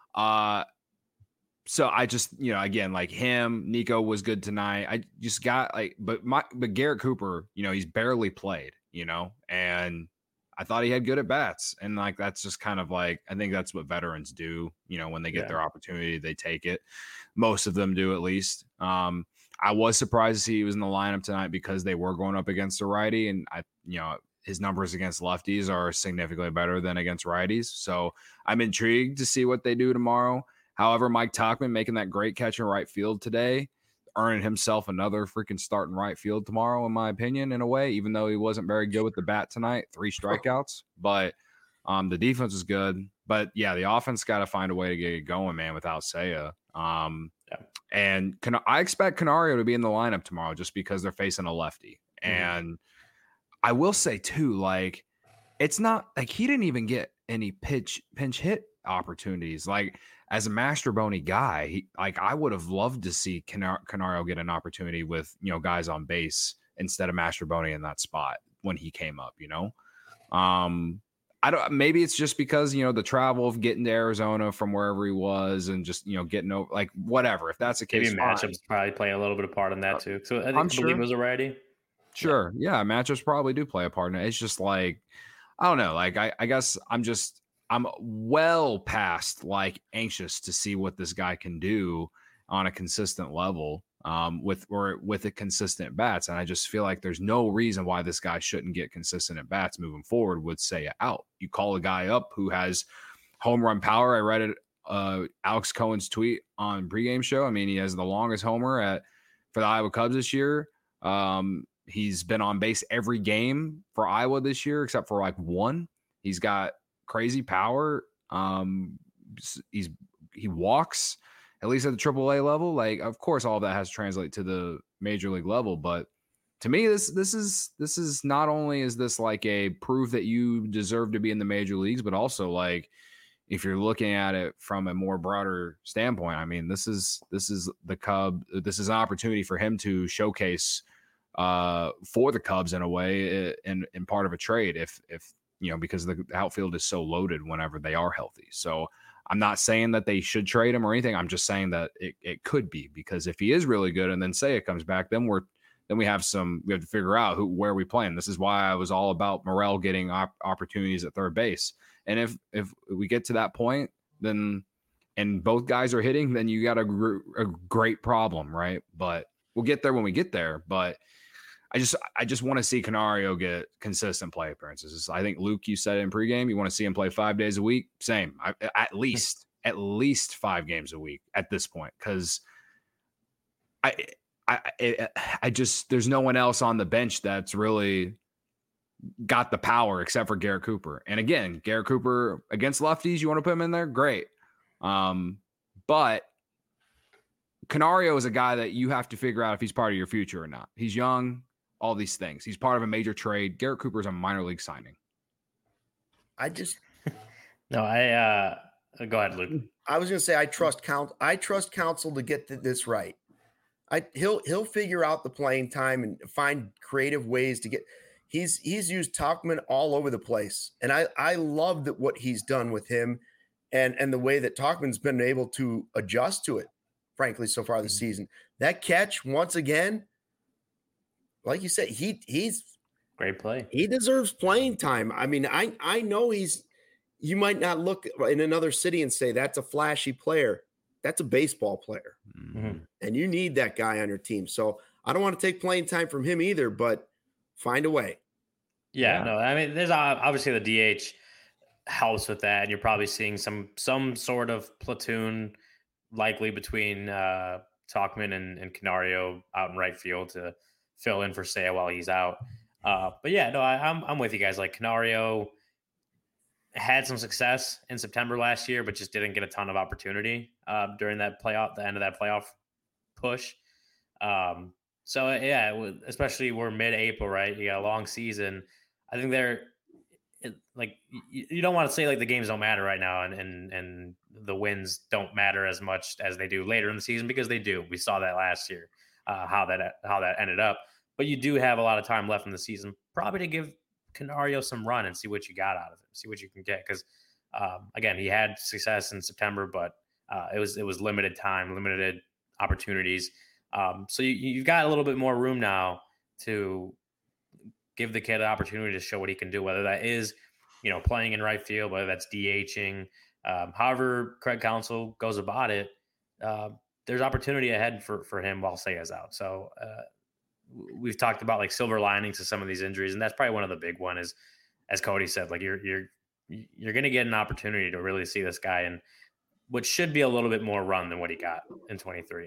Speaker 2: So I just, you know, again, like him, Nico was good tonight. I just got like, but Garrett Cooper, you know, he's barely played, you know, and I thought he had good at bats. And like, that's just kind of like, I think that's what veterans do. You know, when they get their opportunity, they take it. Most of them do, at least. I was surprised to see he was in the lineup tonight because they were going up against a righty, and you know, his numbers against lefties are significantly better than against righties. So I'm intrigued to see what they do tomorrow. However, Mike Tauchman making that great catch in right field today, earning himself another freaking start in right field tomorrow, in my opinion, in a way, even though he wasn't very good with the bat tonight, 3 strikeouts. But the defense is good. But, yeah, the offense got to find a way to get it going, man, without Seiya. And I expect Canario to be in the lineup tomorrow just because they're facing a lefty. And I will say, too, like, it's not like he didn't even get any pinch hit opportunities. Like as a Mastrobuoni guy, I would have loved to see Canario get an opportunity with, guys on base instead of Mastrobuoni in that spot when he came up, maybe it's just because, the travel of getting to Arizona from wherever he was and just, getting over, like, whatever. If that's the case,
Speaker 3: maybe matchups probably play a little bit of part in that too. So I believe it was a righty.
Speaker 2: Sure. Yeah. Matchups probably do play a part in it. It's just like, I don't know. Like, I guess I'm well past like anxious to see what this guy can do on a consistent level with a consistent bats. And I just feel like there's no reason why this guy shouldn't get consistent at bats moving forward with Seiya out. You call a guy up who has home run power. I read it, Alex Cohen's tweet on pregame show. I mean, he has the longest homer for the Iowa Cubs this year. He's been on base every game for Iowa this year, except for like one. He's got crazy power. He walks at least at the AAA level. Like, of course, all of that has to translate to the major league level. But to me, this is not only is this like a proof that you deserve to be in the major leagues, but also like if you're looking at it from a more broader standpoint, I mean, this is the Cub. This is an opportunity for him to showcase for the Cubs in a way in part of a trade if because the outfield is so loaded whenever they are healthy. So I'm not saying that they should trade him or anything. I'm just saying that it could be, because if he is really good and then Seiya comes back, then we have to figure out where we play him. This is why I was all about Morel getting opportunities at third base. And if we get to that point, then and both guys are hitting, then you got a great problem, right? But we'll get there when we get there. But I just want to see Canario get consistent play appearances. I think, Luke, you said it in pregame, you want to see him play 5 days a week. Same. At least 5 games a week at this point, because I just there's no one else on the bench that's really got the power except for Garrett Cooper. And again, Garrett Cooper against lefties, you want to put him in there? Great. But Canario is a guy that you have to figure out if he's part of your future or not. He's young. All these things. He's part of a major trade. Garrett Cooper is a minor league signing.
Speaker 3: Go ahead, Luke.
Speaker 1: I was going to say, I trust Counsell to get this right. He'll figure out the playing time and find creative ways to get. He's used Tauchman all over the place, and I love that what he's done with him, and the way that Tauchman's been able to adjust to it. Frankly, so far this season, that catch once again. Like you said, he's
Speaker 3: great play.
Speaker 1: He deserves playing time. I mean, I know you might not look in another city and say that's a flashy player. That's a baseball player. Mm-hmm. And you need that guy on your team. So I don't want to take playing time from him either, but find a way.
Speaker 3: Yeah. No, I mean, there's obviously the DH helps with that. And you're probably seeing some sort of platoon likely between Tauchman and Canario out in right field to fill in for Seiya while he's out. But yeah, no, I'm with you guys. Like, Canario had some success in September last year, but just didn't get a ton of opportunity during the end of that playoff push. So yeah, especially we're mid-April, right? You got a long season. I think you don't want to say like the games don't matter right now and the wins don't matter as much as they do later in the season, because they do. We saw that last year, how that ended up. But you do have a lot of time left in the season, probably to give Canario some run and see what you got out of him, see what you can get. Because again, he had success in September, but it was limited time, limited opportunities. So you've got a little bit more room now to give the kid an opportunity to show what he can do, whether that is, playing in right field, whether that's DHing, however Craig Counsell goes about it. There's opportunity ahead for him while Seiya's out. So we've talked about like silver linings to some of these injuries, and that's probably one of the big one is, as Cody said, like you're going to get an opportunity to really see this guy in what should be a little bit more run than what he got in 23.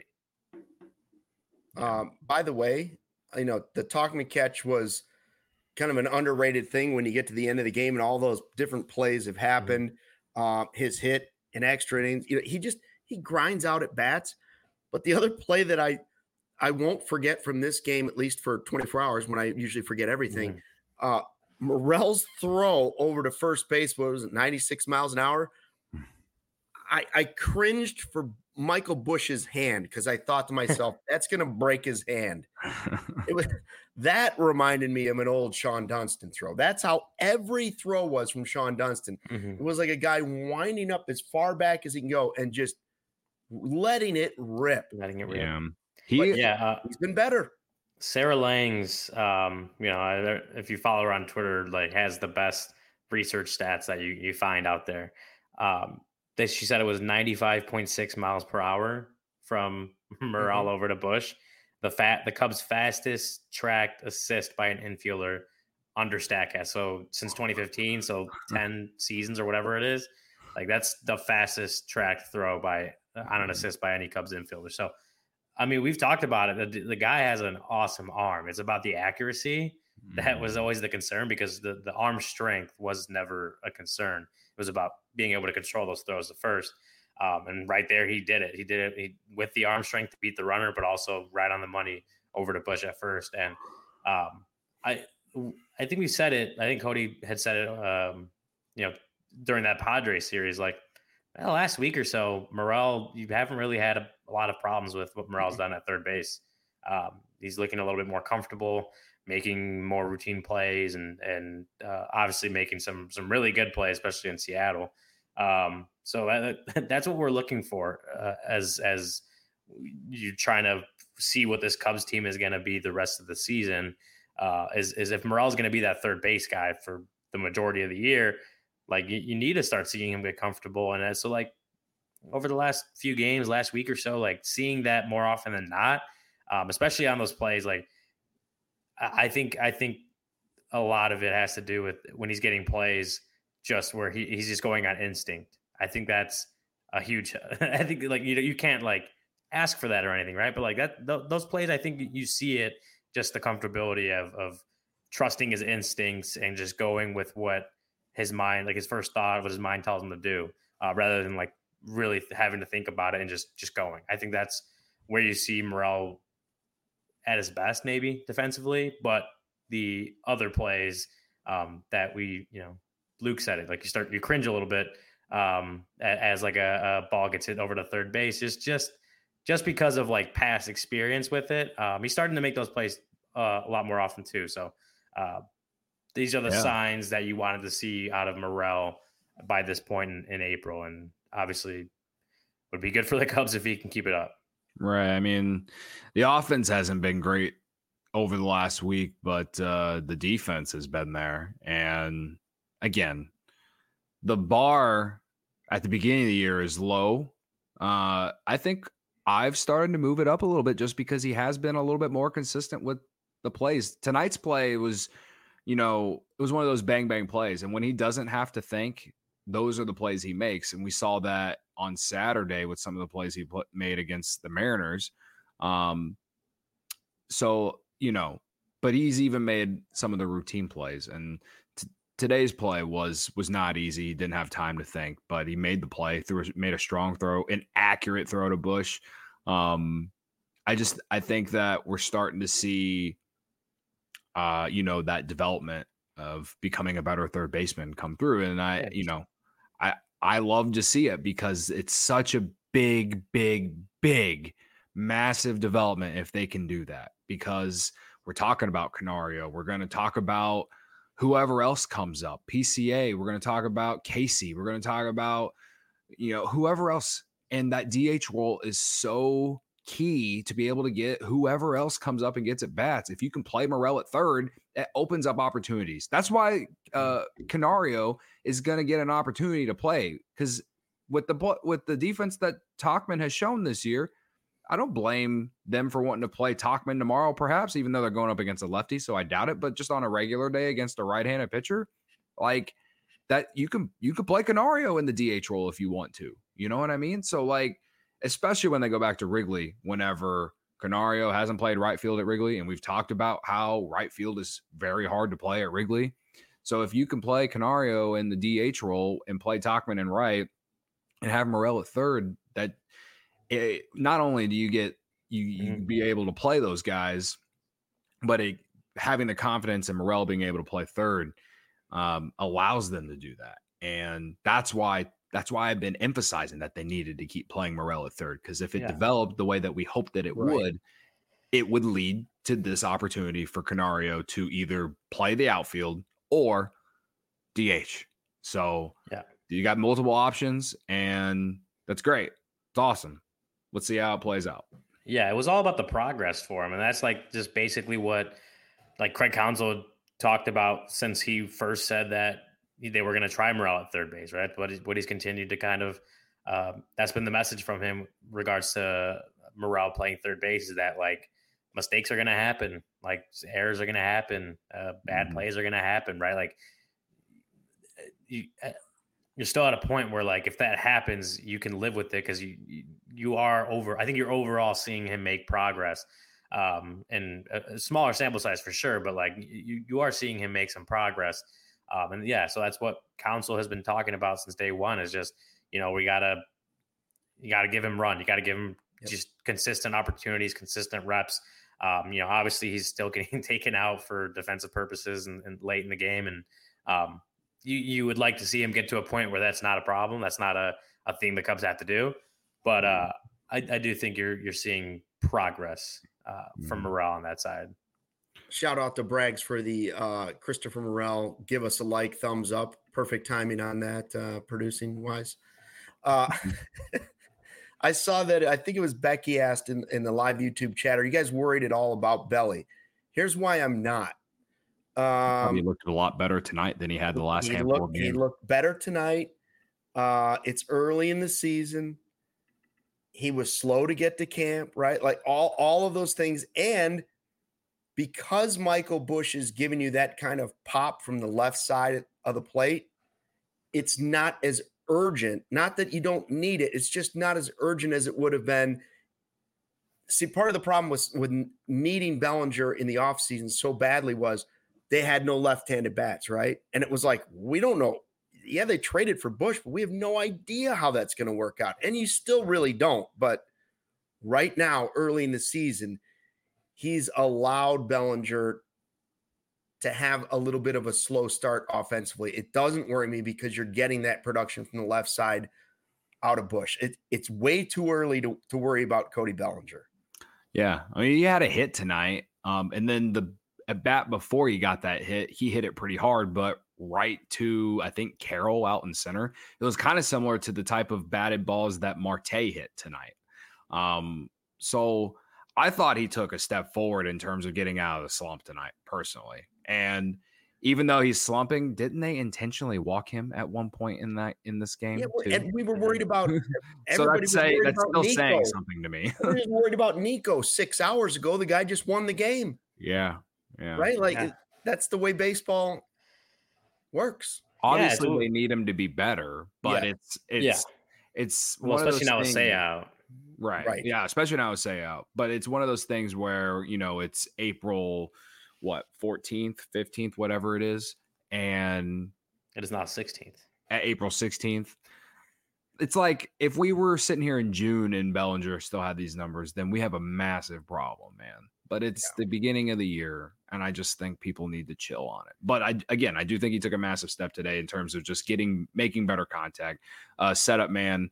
Speaker 1: By the way, the Tauchman catch was kind of an underrated thing when you get to the end of the game and all those different plays have happened. Mm-hmm. His hit in extra innings, he grinds out at bats. But the other play that I won't forget from this game, at least for 24 hours when I usually forget everything, Morel's throw over to first base, what was it, 96 miles an hour? I cringed for Michael Bush's hand because I thought to myself, that's going to break his hand. That reminded me of an old Sean Dunston throw. That's how every throw was from Sean Dunston. Mm-hmm. It was like a guy winding up as far back as he can go and just letting it rip.
Speaker 2: Yeah.
Speaker 1: He's been better.
Speaker 3: Sarah Langs, if you follow her on Twitter, like has the best research stats that you find out there. She said it was 95.6 miles per hour from Morel over to Bush. The Cubs' fastest tracked assist by an infielder under Statcast. So since 2015, so 10 seasons or whatever it is, like that's the fastest tracked throw on an assist by any Cubs infielder. So, I mean, we've talked about it. The guy has an awesome arm. It's about the accuracy that was always the concern because the arm strength was never a concern. It was about being able to control those throws at first. And right there, he did it. He did it with the arm strength to beat the runner, but also right on the money over to Bush at first. And I think we said it. I think Cody had said it, during that Padres series, like last week or so, Morel, you haven't really had a lot of problems with what Morel's done at third base. He's looking a little bit more comfortable, making more routine plays, and obviously making some really good plays, especially in Seattle. So that's what we're looking for as you're trying to see what this Cubs team is going to be the rest of the season. Is if Morel's going to be that third base guy for the majority of the year, like you need to start seeing him get comfortable. And so like over the last few games, last week or so, like seeing that more often than not, especially on those plays, like I think a lot of it has to do with when he's getting plays just where he's just going on instinct. I think that's a huge, I think like, you can't like ask for that or anything. Right. But like those plays, I think you see it, just the comfortability of trusting his instincts and just going with what his mind, like his first thought, what his mind tells him to do, rather than like really having to think about it and just going. I think that's where you see Morel at his best, maybe defensively, but the other plays that Luke said it, like you cringe a little bit as like a ball gets hit over to third base, just because of like past experience with it. He's starting to make those plays a lot more often too. So these are the signs that you wanted to see out of Morel by this point in April, and obviously would be good for the Cubs if he can keep it up.
Speaker 2: Right. I mean, the offense hasn't been great over the last week, but the defense has been there. And again, the bar at the beginning of the year is low. I think I've started to move it up a little bit just because he has been a little bit more consistent with the plays. Tonight's play was, it was one of those bang, bang plays. And when he doesn't have to think, those are the plays he makes. And we saw that on Saturday with some of the plays he made against the Mariners. But he's even made some of the routine plays. And today's play was not easy. He didn't have time to think, but he made the play, made a strong throw, an accurate throw to Bush. I think that we're starting to see, that development of becoming a better third baseman come through. And I love to see it because it's such a big, big, big, massive development if they can do that, because we're talking about Canario. We're going to talk about whoever else comes up, PCA. We're going to talk about Casey. We're going to talk about, whoever else. And that DH role is so key to be able to get whoever else comes up and gets at bats. If you can play Morel at third, it opens up opportunities. That's why Canario is going to get an opportunity to play, because with the defense that Tauchman has shown this year, I don't blame them for wanting to play Tauchman tomorrow, perhaps, even though they're going up against a lefty. So I doubt it. But just on a regular day against a right-handed pitcher, like that, you can play Canario in the DH role if you want to. You know what I mean? So like, especially when they go back to Wrigley, whenever Canario hasn't played right field at Wrigley, and we've talked about how right field is very hard to play at Wrigley. So if you can play Canario in the DH role and play Tauchman in right and have Morel at third, that not only do you get you be able to play those guys, but having the confidence in Morel being able to play third, allows them to do that. And that's why I've been emphasizing that they needed to keep playing Morel at third, because if it developed the way that we hoped that it would, it would lead to this opportunity for Canario to either play the outfield or DH. So you got multiple options, and that's great. It's awesome. Let's see how it plays out.
Speaker 3: Yeah, it was all about the progress for him. And that's like just basically what like Craig Counsell talked about since he first said that they were going to try Morel at third base, right? What he's continued to kind of that's been the message from him regards to Morel playing third base, is that like mistakes are going to happen, like errors are going to happen, bad plays are going to happen, right? Like you're still at a point where like if that happens, you can live with it, because you are over. I think you're overall seeing him make progress, and a smaller sample size for sure, but like you are seeing him make some progress. And so that's what Counsell has been talking about since day one, is just, you gotta give him run. You got to give him just consistent opportunities, consistent reps. Obviously he's still getting taken out for defensive purposes and late in the game. And you would like to see him get to a point where that's not a problem. That's not a thing the Cubs have to do. But I do think you're seeing progress from Morel on that side.
Speaker 1: Shout out to Braggs for the Christopher Morel. Give us a like, thumbs up. Perfect timing on that, producing wise. I saw that, I think it was Becky asked in the live YouTube chat, are you guys worried at all about Belly? Here's why I'm not.
Speaker 2: He looked a lot better tonight than he had the last handful of games.
Speaker 1: He looked better tonight. It's early in the season. He was slow to get to camp, right? Like all of those things. And because Michael Busch is giving you that kind of pop from the left side of the plate, it's not as urgent. Not that you don't need it. It's just not as urgent as it would have been. See, part of the problem with needing Bellinger in the offseason so badly was they had no left-handed bats, right? And it was like, we don't know. Yeah, they traded for Busch, but we have no idea how that's going to work out. And you still really don't. But right now, early in the season, he's allowed Bellinger to have a little bit of a slow start offensively. It doesn't worry me because you're getting that production from the left side out of Busch. It's way too early to worry about Cody Bellinger.
Speaker 2: Yeah. I mean, he had a hit tonight. And then the at bat before he got that hit, he hit it pretty hard, but right to, I think, Carroll out in center. It was kind of similar to the type of batted balls that Marte hit tonight. So I thought he took a step forward in terms of getting out of the slump tonight, personally. And even though he's slumping, didn't they intentionally walk him at one point in this game?
Speaker 1: Yeah, well, and we were worried about.
Speaker 2: So that's still saying something to me.
Speaker 1: We were worried about Nico 6 hours ago. The guy just won the game.
Speaker 2: Yeah.
Speaker 1: Right. Like that's the way baseball works.
Speaker 2: Obviously, they need him to be better, but it's
Speaker 3: well, especially now with Say out.
Speaker 2: Right. Yeah, especially now with Say out. But it's one of those things where, it's April 14th, 15th, whatever it is. And
Speaker 3: it is now 16th.
Speaker 2: At April 16th. It's like if we were sitting here in June and Bellinger still had these numbers, then we have a massive problem, man. But it's the beginning of the year, and I just think people need to chill on it. But I do think he took a massive step today in terms of just making better contact. Setup man,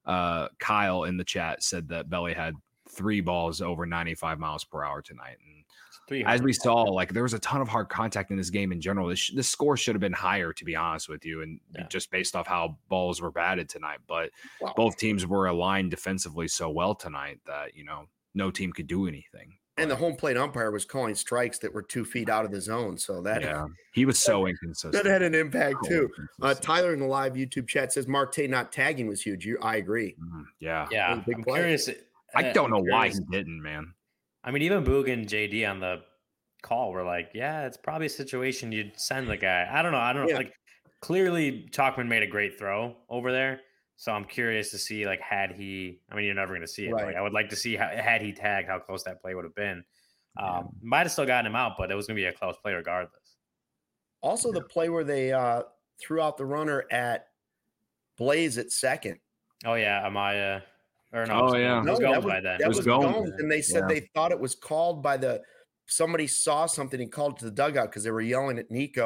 Speaker 2: Kyle in the chat said that Belly had 3 balls over 95 miles per hour tonight. And as we saw, like there was a ton of hard contact in this game in general. This score should have been higher, to be honest with you, and just based off how balls were batted tonight. But both teams were aligned defensively so well tonight that, no team could do anything.
Speaker 1: And the home plate umpire was calling strikes that were 2 feet out of the zone. So that
Speaker 2: he was so inconsistent.
Speaker 1: That had an impact too. Tyler in the live YouTube chat says Marte not tagging was huge. I agree.
Speaker 2: Yeah.
Speaker 3: I'm curious.
Speaker 2: I don't know why he didn't, man.
Speaker 3: I mean, even Boog and JD on the call were like, it's probably a situation you'd send the guy. I don't know. Like clearly Tauchman made a great throw over there. So I'm curious to see, like, had he – I mean, you're never going to see it. Right. But, like, I would like to see, had he tagged, how close that play would have been. Might have still gotten him out, but it was going to be a close play regardless.
Speaker 1: Also, the play where they threw out the runner at Blaze at second.
Speaker 3: Oh, yeah, Amaya. Or no,
Speaker 2: it
Speaker 3: was Gomes by then.
Speaker 1: That was Gomes, and they said they thought it was called by somebody saw something and called it to the dugout because they were yelling at Nico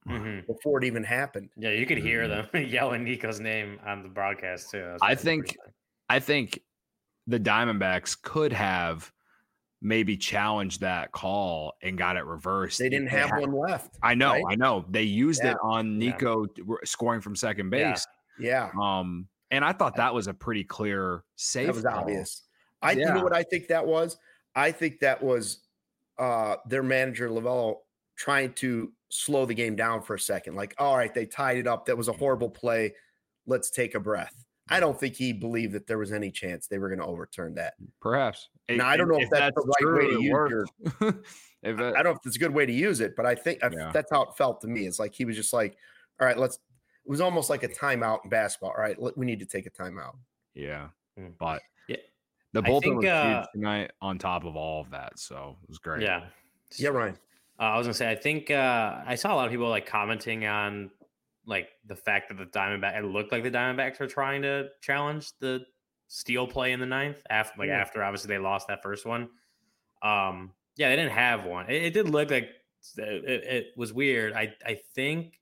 Speaker 1: before it even happened.
Speaker 3: Yeah, you could hear them yelling Nico's name on the broadcast too.
Speaker 2: I think the Diamondbacks could have maybe challenged that call and got it reversed.
Speaker 1: They didn't have one left.
Speaker 2: I know,
Speaker 1: right?
Speaker 2: I know. They used it on Nico scoring from second base.
Speaker 1: Yeah.
Speaker 2: And I thought that was a pretty clear save.
Speaker 1: That was obvious. You know what I think that was? I think that was their manager Lavello trying to slow the game down for a second. Like, all right, they tied it up. That was a horrible play. Let's take a breath. I don't think he believed that there was any chance they were going to overturn that.
Speaker 2: Perhaps.
Speaker 1: Now, I don't know if that's the right way to use it. I don't know if it's a good way to use it, but I think that's how it felt to me. It's like he was just like, all right, it was almost like a timeout in basketball. All right, we need to take a timeout.
Speaker 2: Yeah. But the bullpen was huge tonight on top of all of that. So it was great.
Speaker 3: Yeah.
Speaker 1: Yeah, Ryan.
Speaker 3: I was going to say, I think I saw a lot of people like commenting on like the fact that it looked like the Diamondbacks were trying to challenge the steal play in the ninth after obviously they lost that first one. They didn't have one. It did look like it was weird. I think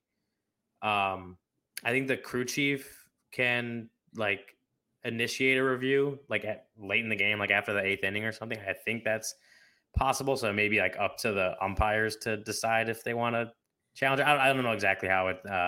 Speaker 3: the crew chief can like initiate a review like late in the game, like after the 8th inning or something. I think that's possible. So maybe like up to the umpires to decide if they want to challenge. I don't know exactly how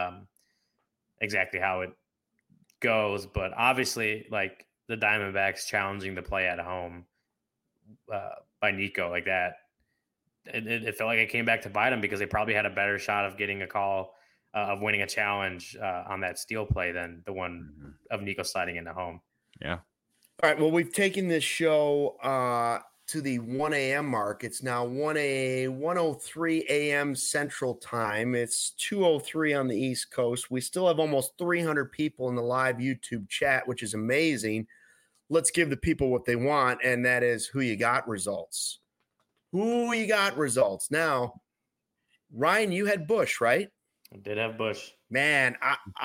Speaker 3: it goes, but obviously like the Diamondbacks challenging the play at home by Nico like that, it felt like it came back to bite them because they probably had a better shot of getting a call of winning a challenge on that steal play than the one of Nico sliding into home.
Speaker 2: Yeah.
Speaker 1: All right. Well, we've taken this show to the 1 a.m. mark. It's now 1:03 a.m. Central Time. It's 2:03 on the East Coast. We still have almost 300 people in the live YouTube chat, which is amazing. Let's give the people what they want, and that is who you got results. Who you got results. Now, Ryan, you had Bush, right?
Speaker 3: I did have Bush.
Speaker 1: Man,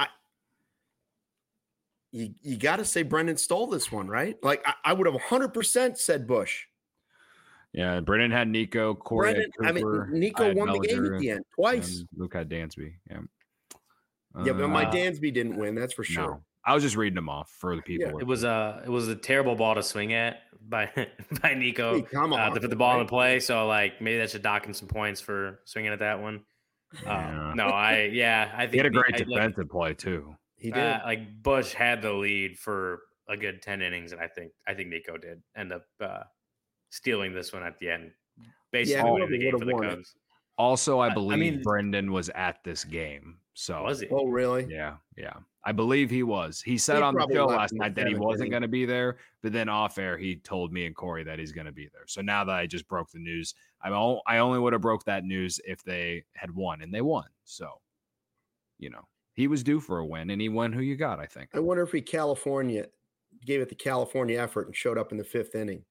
Speaker 1: you got to say Brendan stole this one, right? Like I would have 100% said Bush.
Speaker 2: Yeah, Brendan had Nico, Corey had Cooper.
Speaker 1: Nico won the game at the end twice.
Speaker 2: Luke had Dansby. Yeah.
Speaker 1: But my Dansby didn't win. That's for sure.
Speaker 2: No. I was just reading them off for the people.
Speaker 3: Yeah. It was a terrible ball to swing at by Nico.
Speaker 1: Hey, come on,
Speaker 3: to put the ball in play. So like maybe that should dock him some points for swinging at that one. I think
Speaker 2: he had a great defensive play too.
Speaker 1: He did.
Speaker 3: Like Bush had the lead for a good 10 innings, and I think Nico did end up stealing this one at the end. Basically, the game for the Cubs.
Speaker 2: Also, I believe Brendan was at this game. So
Speaker 3: was he?
Speaker 1: Oh, really?
Speaker 2: Yeah. I believe he was. He said on the show last night that he wasn't going to be there, but then off air he told me and Corey that he's going to be there. So now that I just broke the news, I only would have broke that news if they had won, and they won. So, he was due for a win, and he won. Who you got? I think.
Speaker 1: I wonder if he gave it the California effort and showed up in the 5th inning.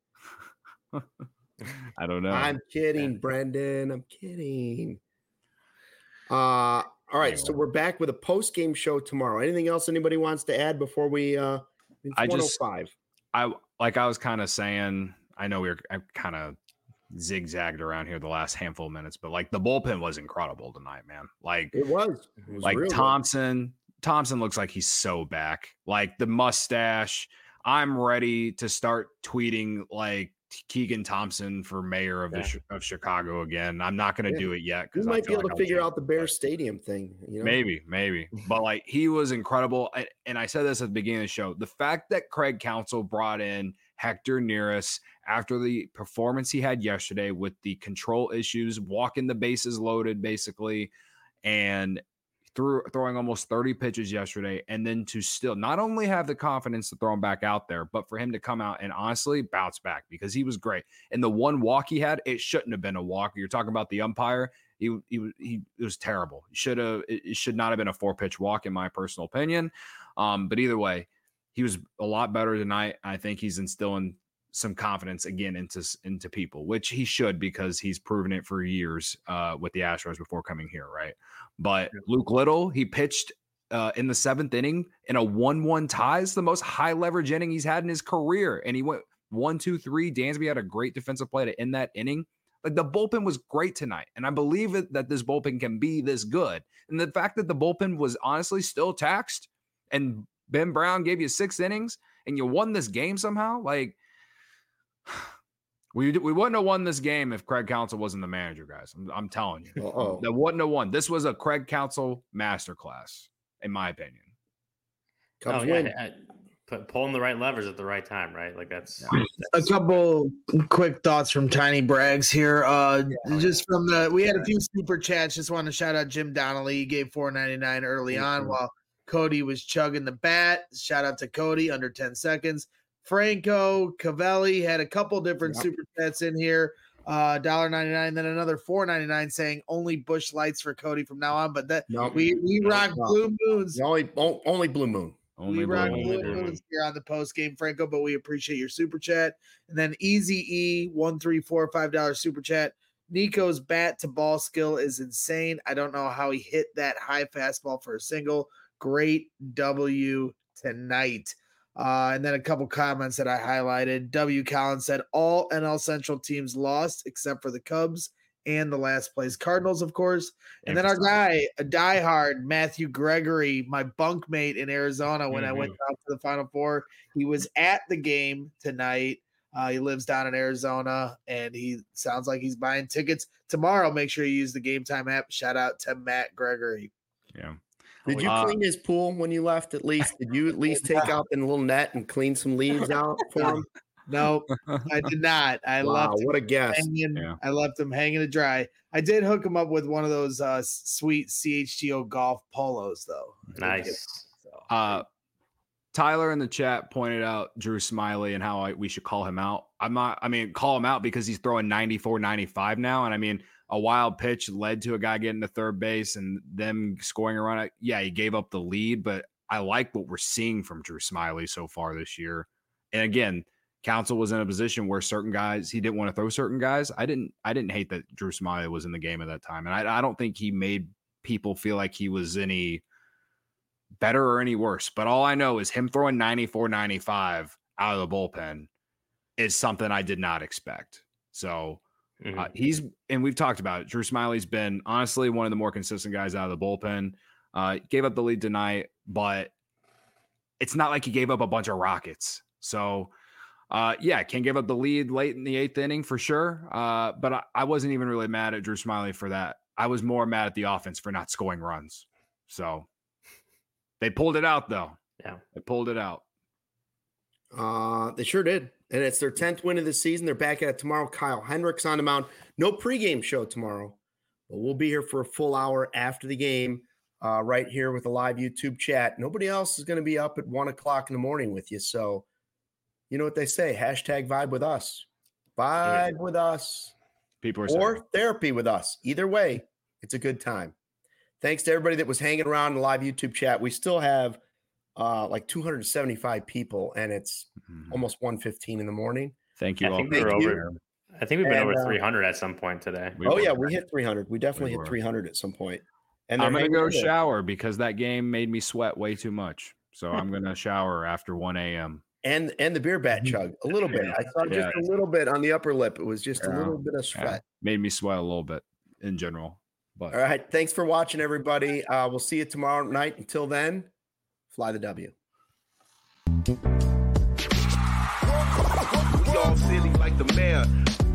Speaker 2: I don't know.
Speaker 1: I'm kidding, Brendan. I'm kidding. All right, so we're back with a post-game show tomorrow. Anything else anybody wants to add before we? It's 1:05.
Speaker 2: I was kind of saying. I know I kind of zigzagged around here the last handful of minutes, but like the bullpen was incredible tonight, man. Like
Speaker 1: it was
Speaker 2: like Thompson. Thompson looks like he's so back. Like the mustache. I'm ready to start tweeting like Keegan Thompson for mayor of Chicago again. I'm not going to do it yet
Speaker 1: because we might be able to figure out the Bears Stadium thing.
Speaker 2: Maybe, but like he was incredible. And I said this at the beginning of the show. The fact that Craig Counsell brought in Hector Neris after the performance he had yesterday with the control issues, walking the bases loaded basically, and throwing almost 30 pitches yesterday, and then to still not only have the confidence to throw him back out there, but for him to come out and honestly bounce back because he was great. And the one walk he had, it shouldn't have been a walk. You're talking about the umpire. He was terrible. It should not have been a 4-pitch walk in my personal opinion. But either way, he was a lot better tonight. I think he's instilling some confidence again into people, which he should because he's proven it for years with the Astros before coming here, right? But Luke Little, he pitched in the 7th inning in a 1-1 tie. It's the most high leverage inning he's had in his career, and he went 1-2-3. Dansby had a great defensive play to end that inning. Like the bullpen was great tonight. And I believe that this bullpen can be this good. And the fact that the bullpen was honestly still taxed and Ben Brown gave you 6 innings and you won this game somehow, like we wouldn't have won this game if Craig Counsell wasn't the manager, guys. I'm telling you. That wouldn't have won. This was a Craig Counsell masterclass, in my opinion.
Speaker 3: Pulling the right levers at the right time, right? Like that's
Speaker 4: a couple quick thoughts from Tiny Brags here. Just from we had a few super chats. Just want to shout out Jim Donnelly. He gave $4.99 early on while Cody was chugging the bat. Shout out to Cody, under 10 seconds. Franco Cavelli had a couple different super chats in here. $1.99, then another $4.99 saying only Busch Lights for Cody from now on. But we rock Blue Moons.
Speaker 1: Only Blue Moon.
Speaker 4: We rock Blue Moons here on the post game, Franco, but we appreciate your super chat. And then Easy E134 $5 super chat. Nico's bat to ball skill is insane. I don't know how he hit that high fastball for a single. Great W tonight. And then a couple comments that I highlighted. W. Collins said all NL Central teams lost except for the Cubs and the last place Cardinals, of course. And then our guy, a diehard, Matthew Gregory, my bunkmate in Arizona when I went out to the Final Four. He was at the game tonight. He lives down in Arizona, and he sounds like he's buying tickets tomorrow. Make sure you use the Game Time app. Shout out to Matt Gregory.
Speaker 2: Yeah.
Speaker 1: Did you clean his pool when you left at least? Did you at least take out the little net and clean some leaves out for him?
Speaker 4: No, I did not. I left.
Speaker 1: What a guess!
Speaker 4: I left him hanging to dry. I did hook him up with one of those sweet CHGO golf polos, though.
Speaker 3: Nice.
Speaker 2: Tyler in the chat pointed out Drew Smyly and how we should call him out. Call him out because he's throwing 94, 95 now. And I mean, a wild pitch led to a guy getting to third base and them scoring a run. Yeah, he gave up the lead, but I like what we're seeing from Drew Smyly so far this year. And again, Counsell was in a position where certain guys, he didn't want to throw certain guys. I didn't hate that Drew Smyly was in the game at that time. And I don't think he made people feel like he was any better or any worse. But all I know is him throwing 94, 95 out of the bullpen is something I did not expect. So we've talked about it. Drew Smyly's been honestly one of the more consistent guys out of the bullpen. Gave up the lead tonight, but it's not like he gave up a bunch of rockets. So can give up the lead late in the 8th inning for sure. But I wasn't even really mad at Drew Smyly for that. I was more mad at the offense for not scoring runs. So they pulled it out, though.
Speaker 3: Yeah,
Speaker 2: they pulled it out.
Speaker 1: They sure did. And it's their 10th win of the season. They're back at it tomorrow. Kyle Hendricks on the mound. No pregame show tomorrow, but we'll be here for a full hour after the game, right here with a live YouTube chat. Nobody else is going to be up at 1 o'clock in the morning with you. So you know what they say, #vibe with us. Vibe with us.
Speaker 2: People are
Speaker 1: or
Speaker 2: saying.
Speaker 1: Therapy with us. Either way, it's a good time. Thanks to everybody that was hanging around in the live YouTube chat. We still have like 275 people, and it's almost 1:15 in the morning.
Speaker 2: Thank you all.
Speaker 3: I think we've been over 300 at some point today.
Speaker 1: We hit 300. We definitely hit 300 at some point. And
Speaker 2: I'm going to go shower because that game made me sweat way too much. So I'm going to shower after 1 a.m.
Speaker 1: And the beer bat chug a little bit. I saw just a little bit on the upper lip. It was just a little bit of sweat.
Speaker 2: Made me sweat a little bit in general. But
Speaker 1: all right. Thanks for watching, everybody. We'll see you tomorrow night. Until then, fly the W.
Speaker 5: We all silly like the mayor.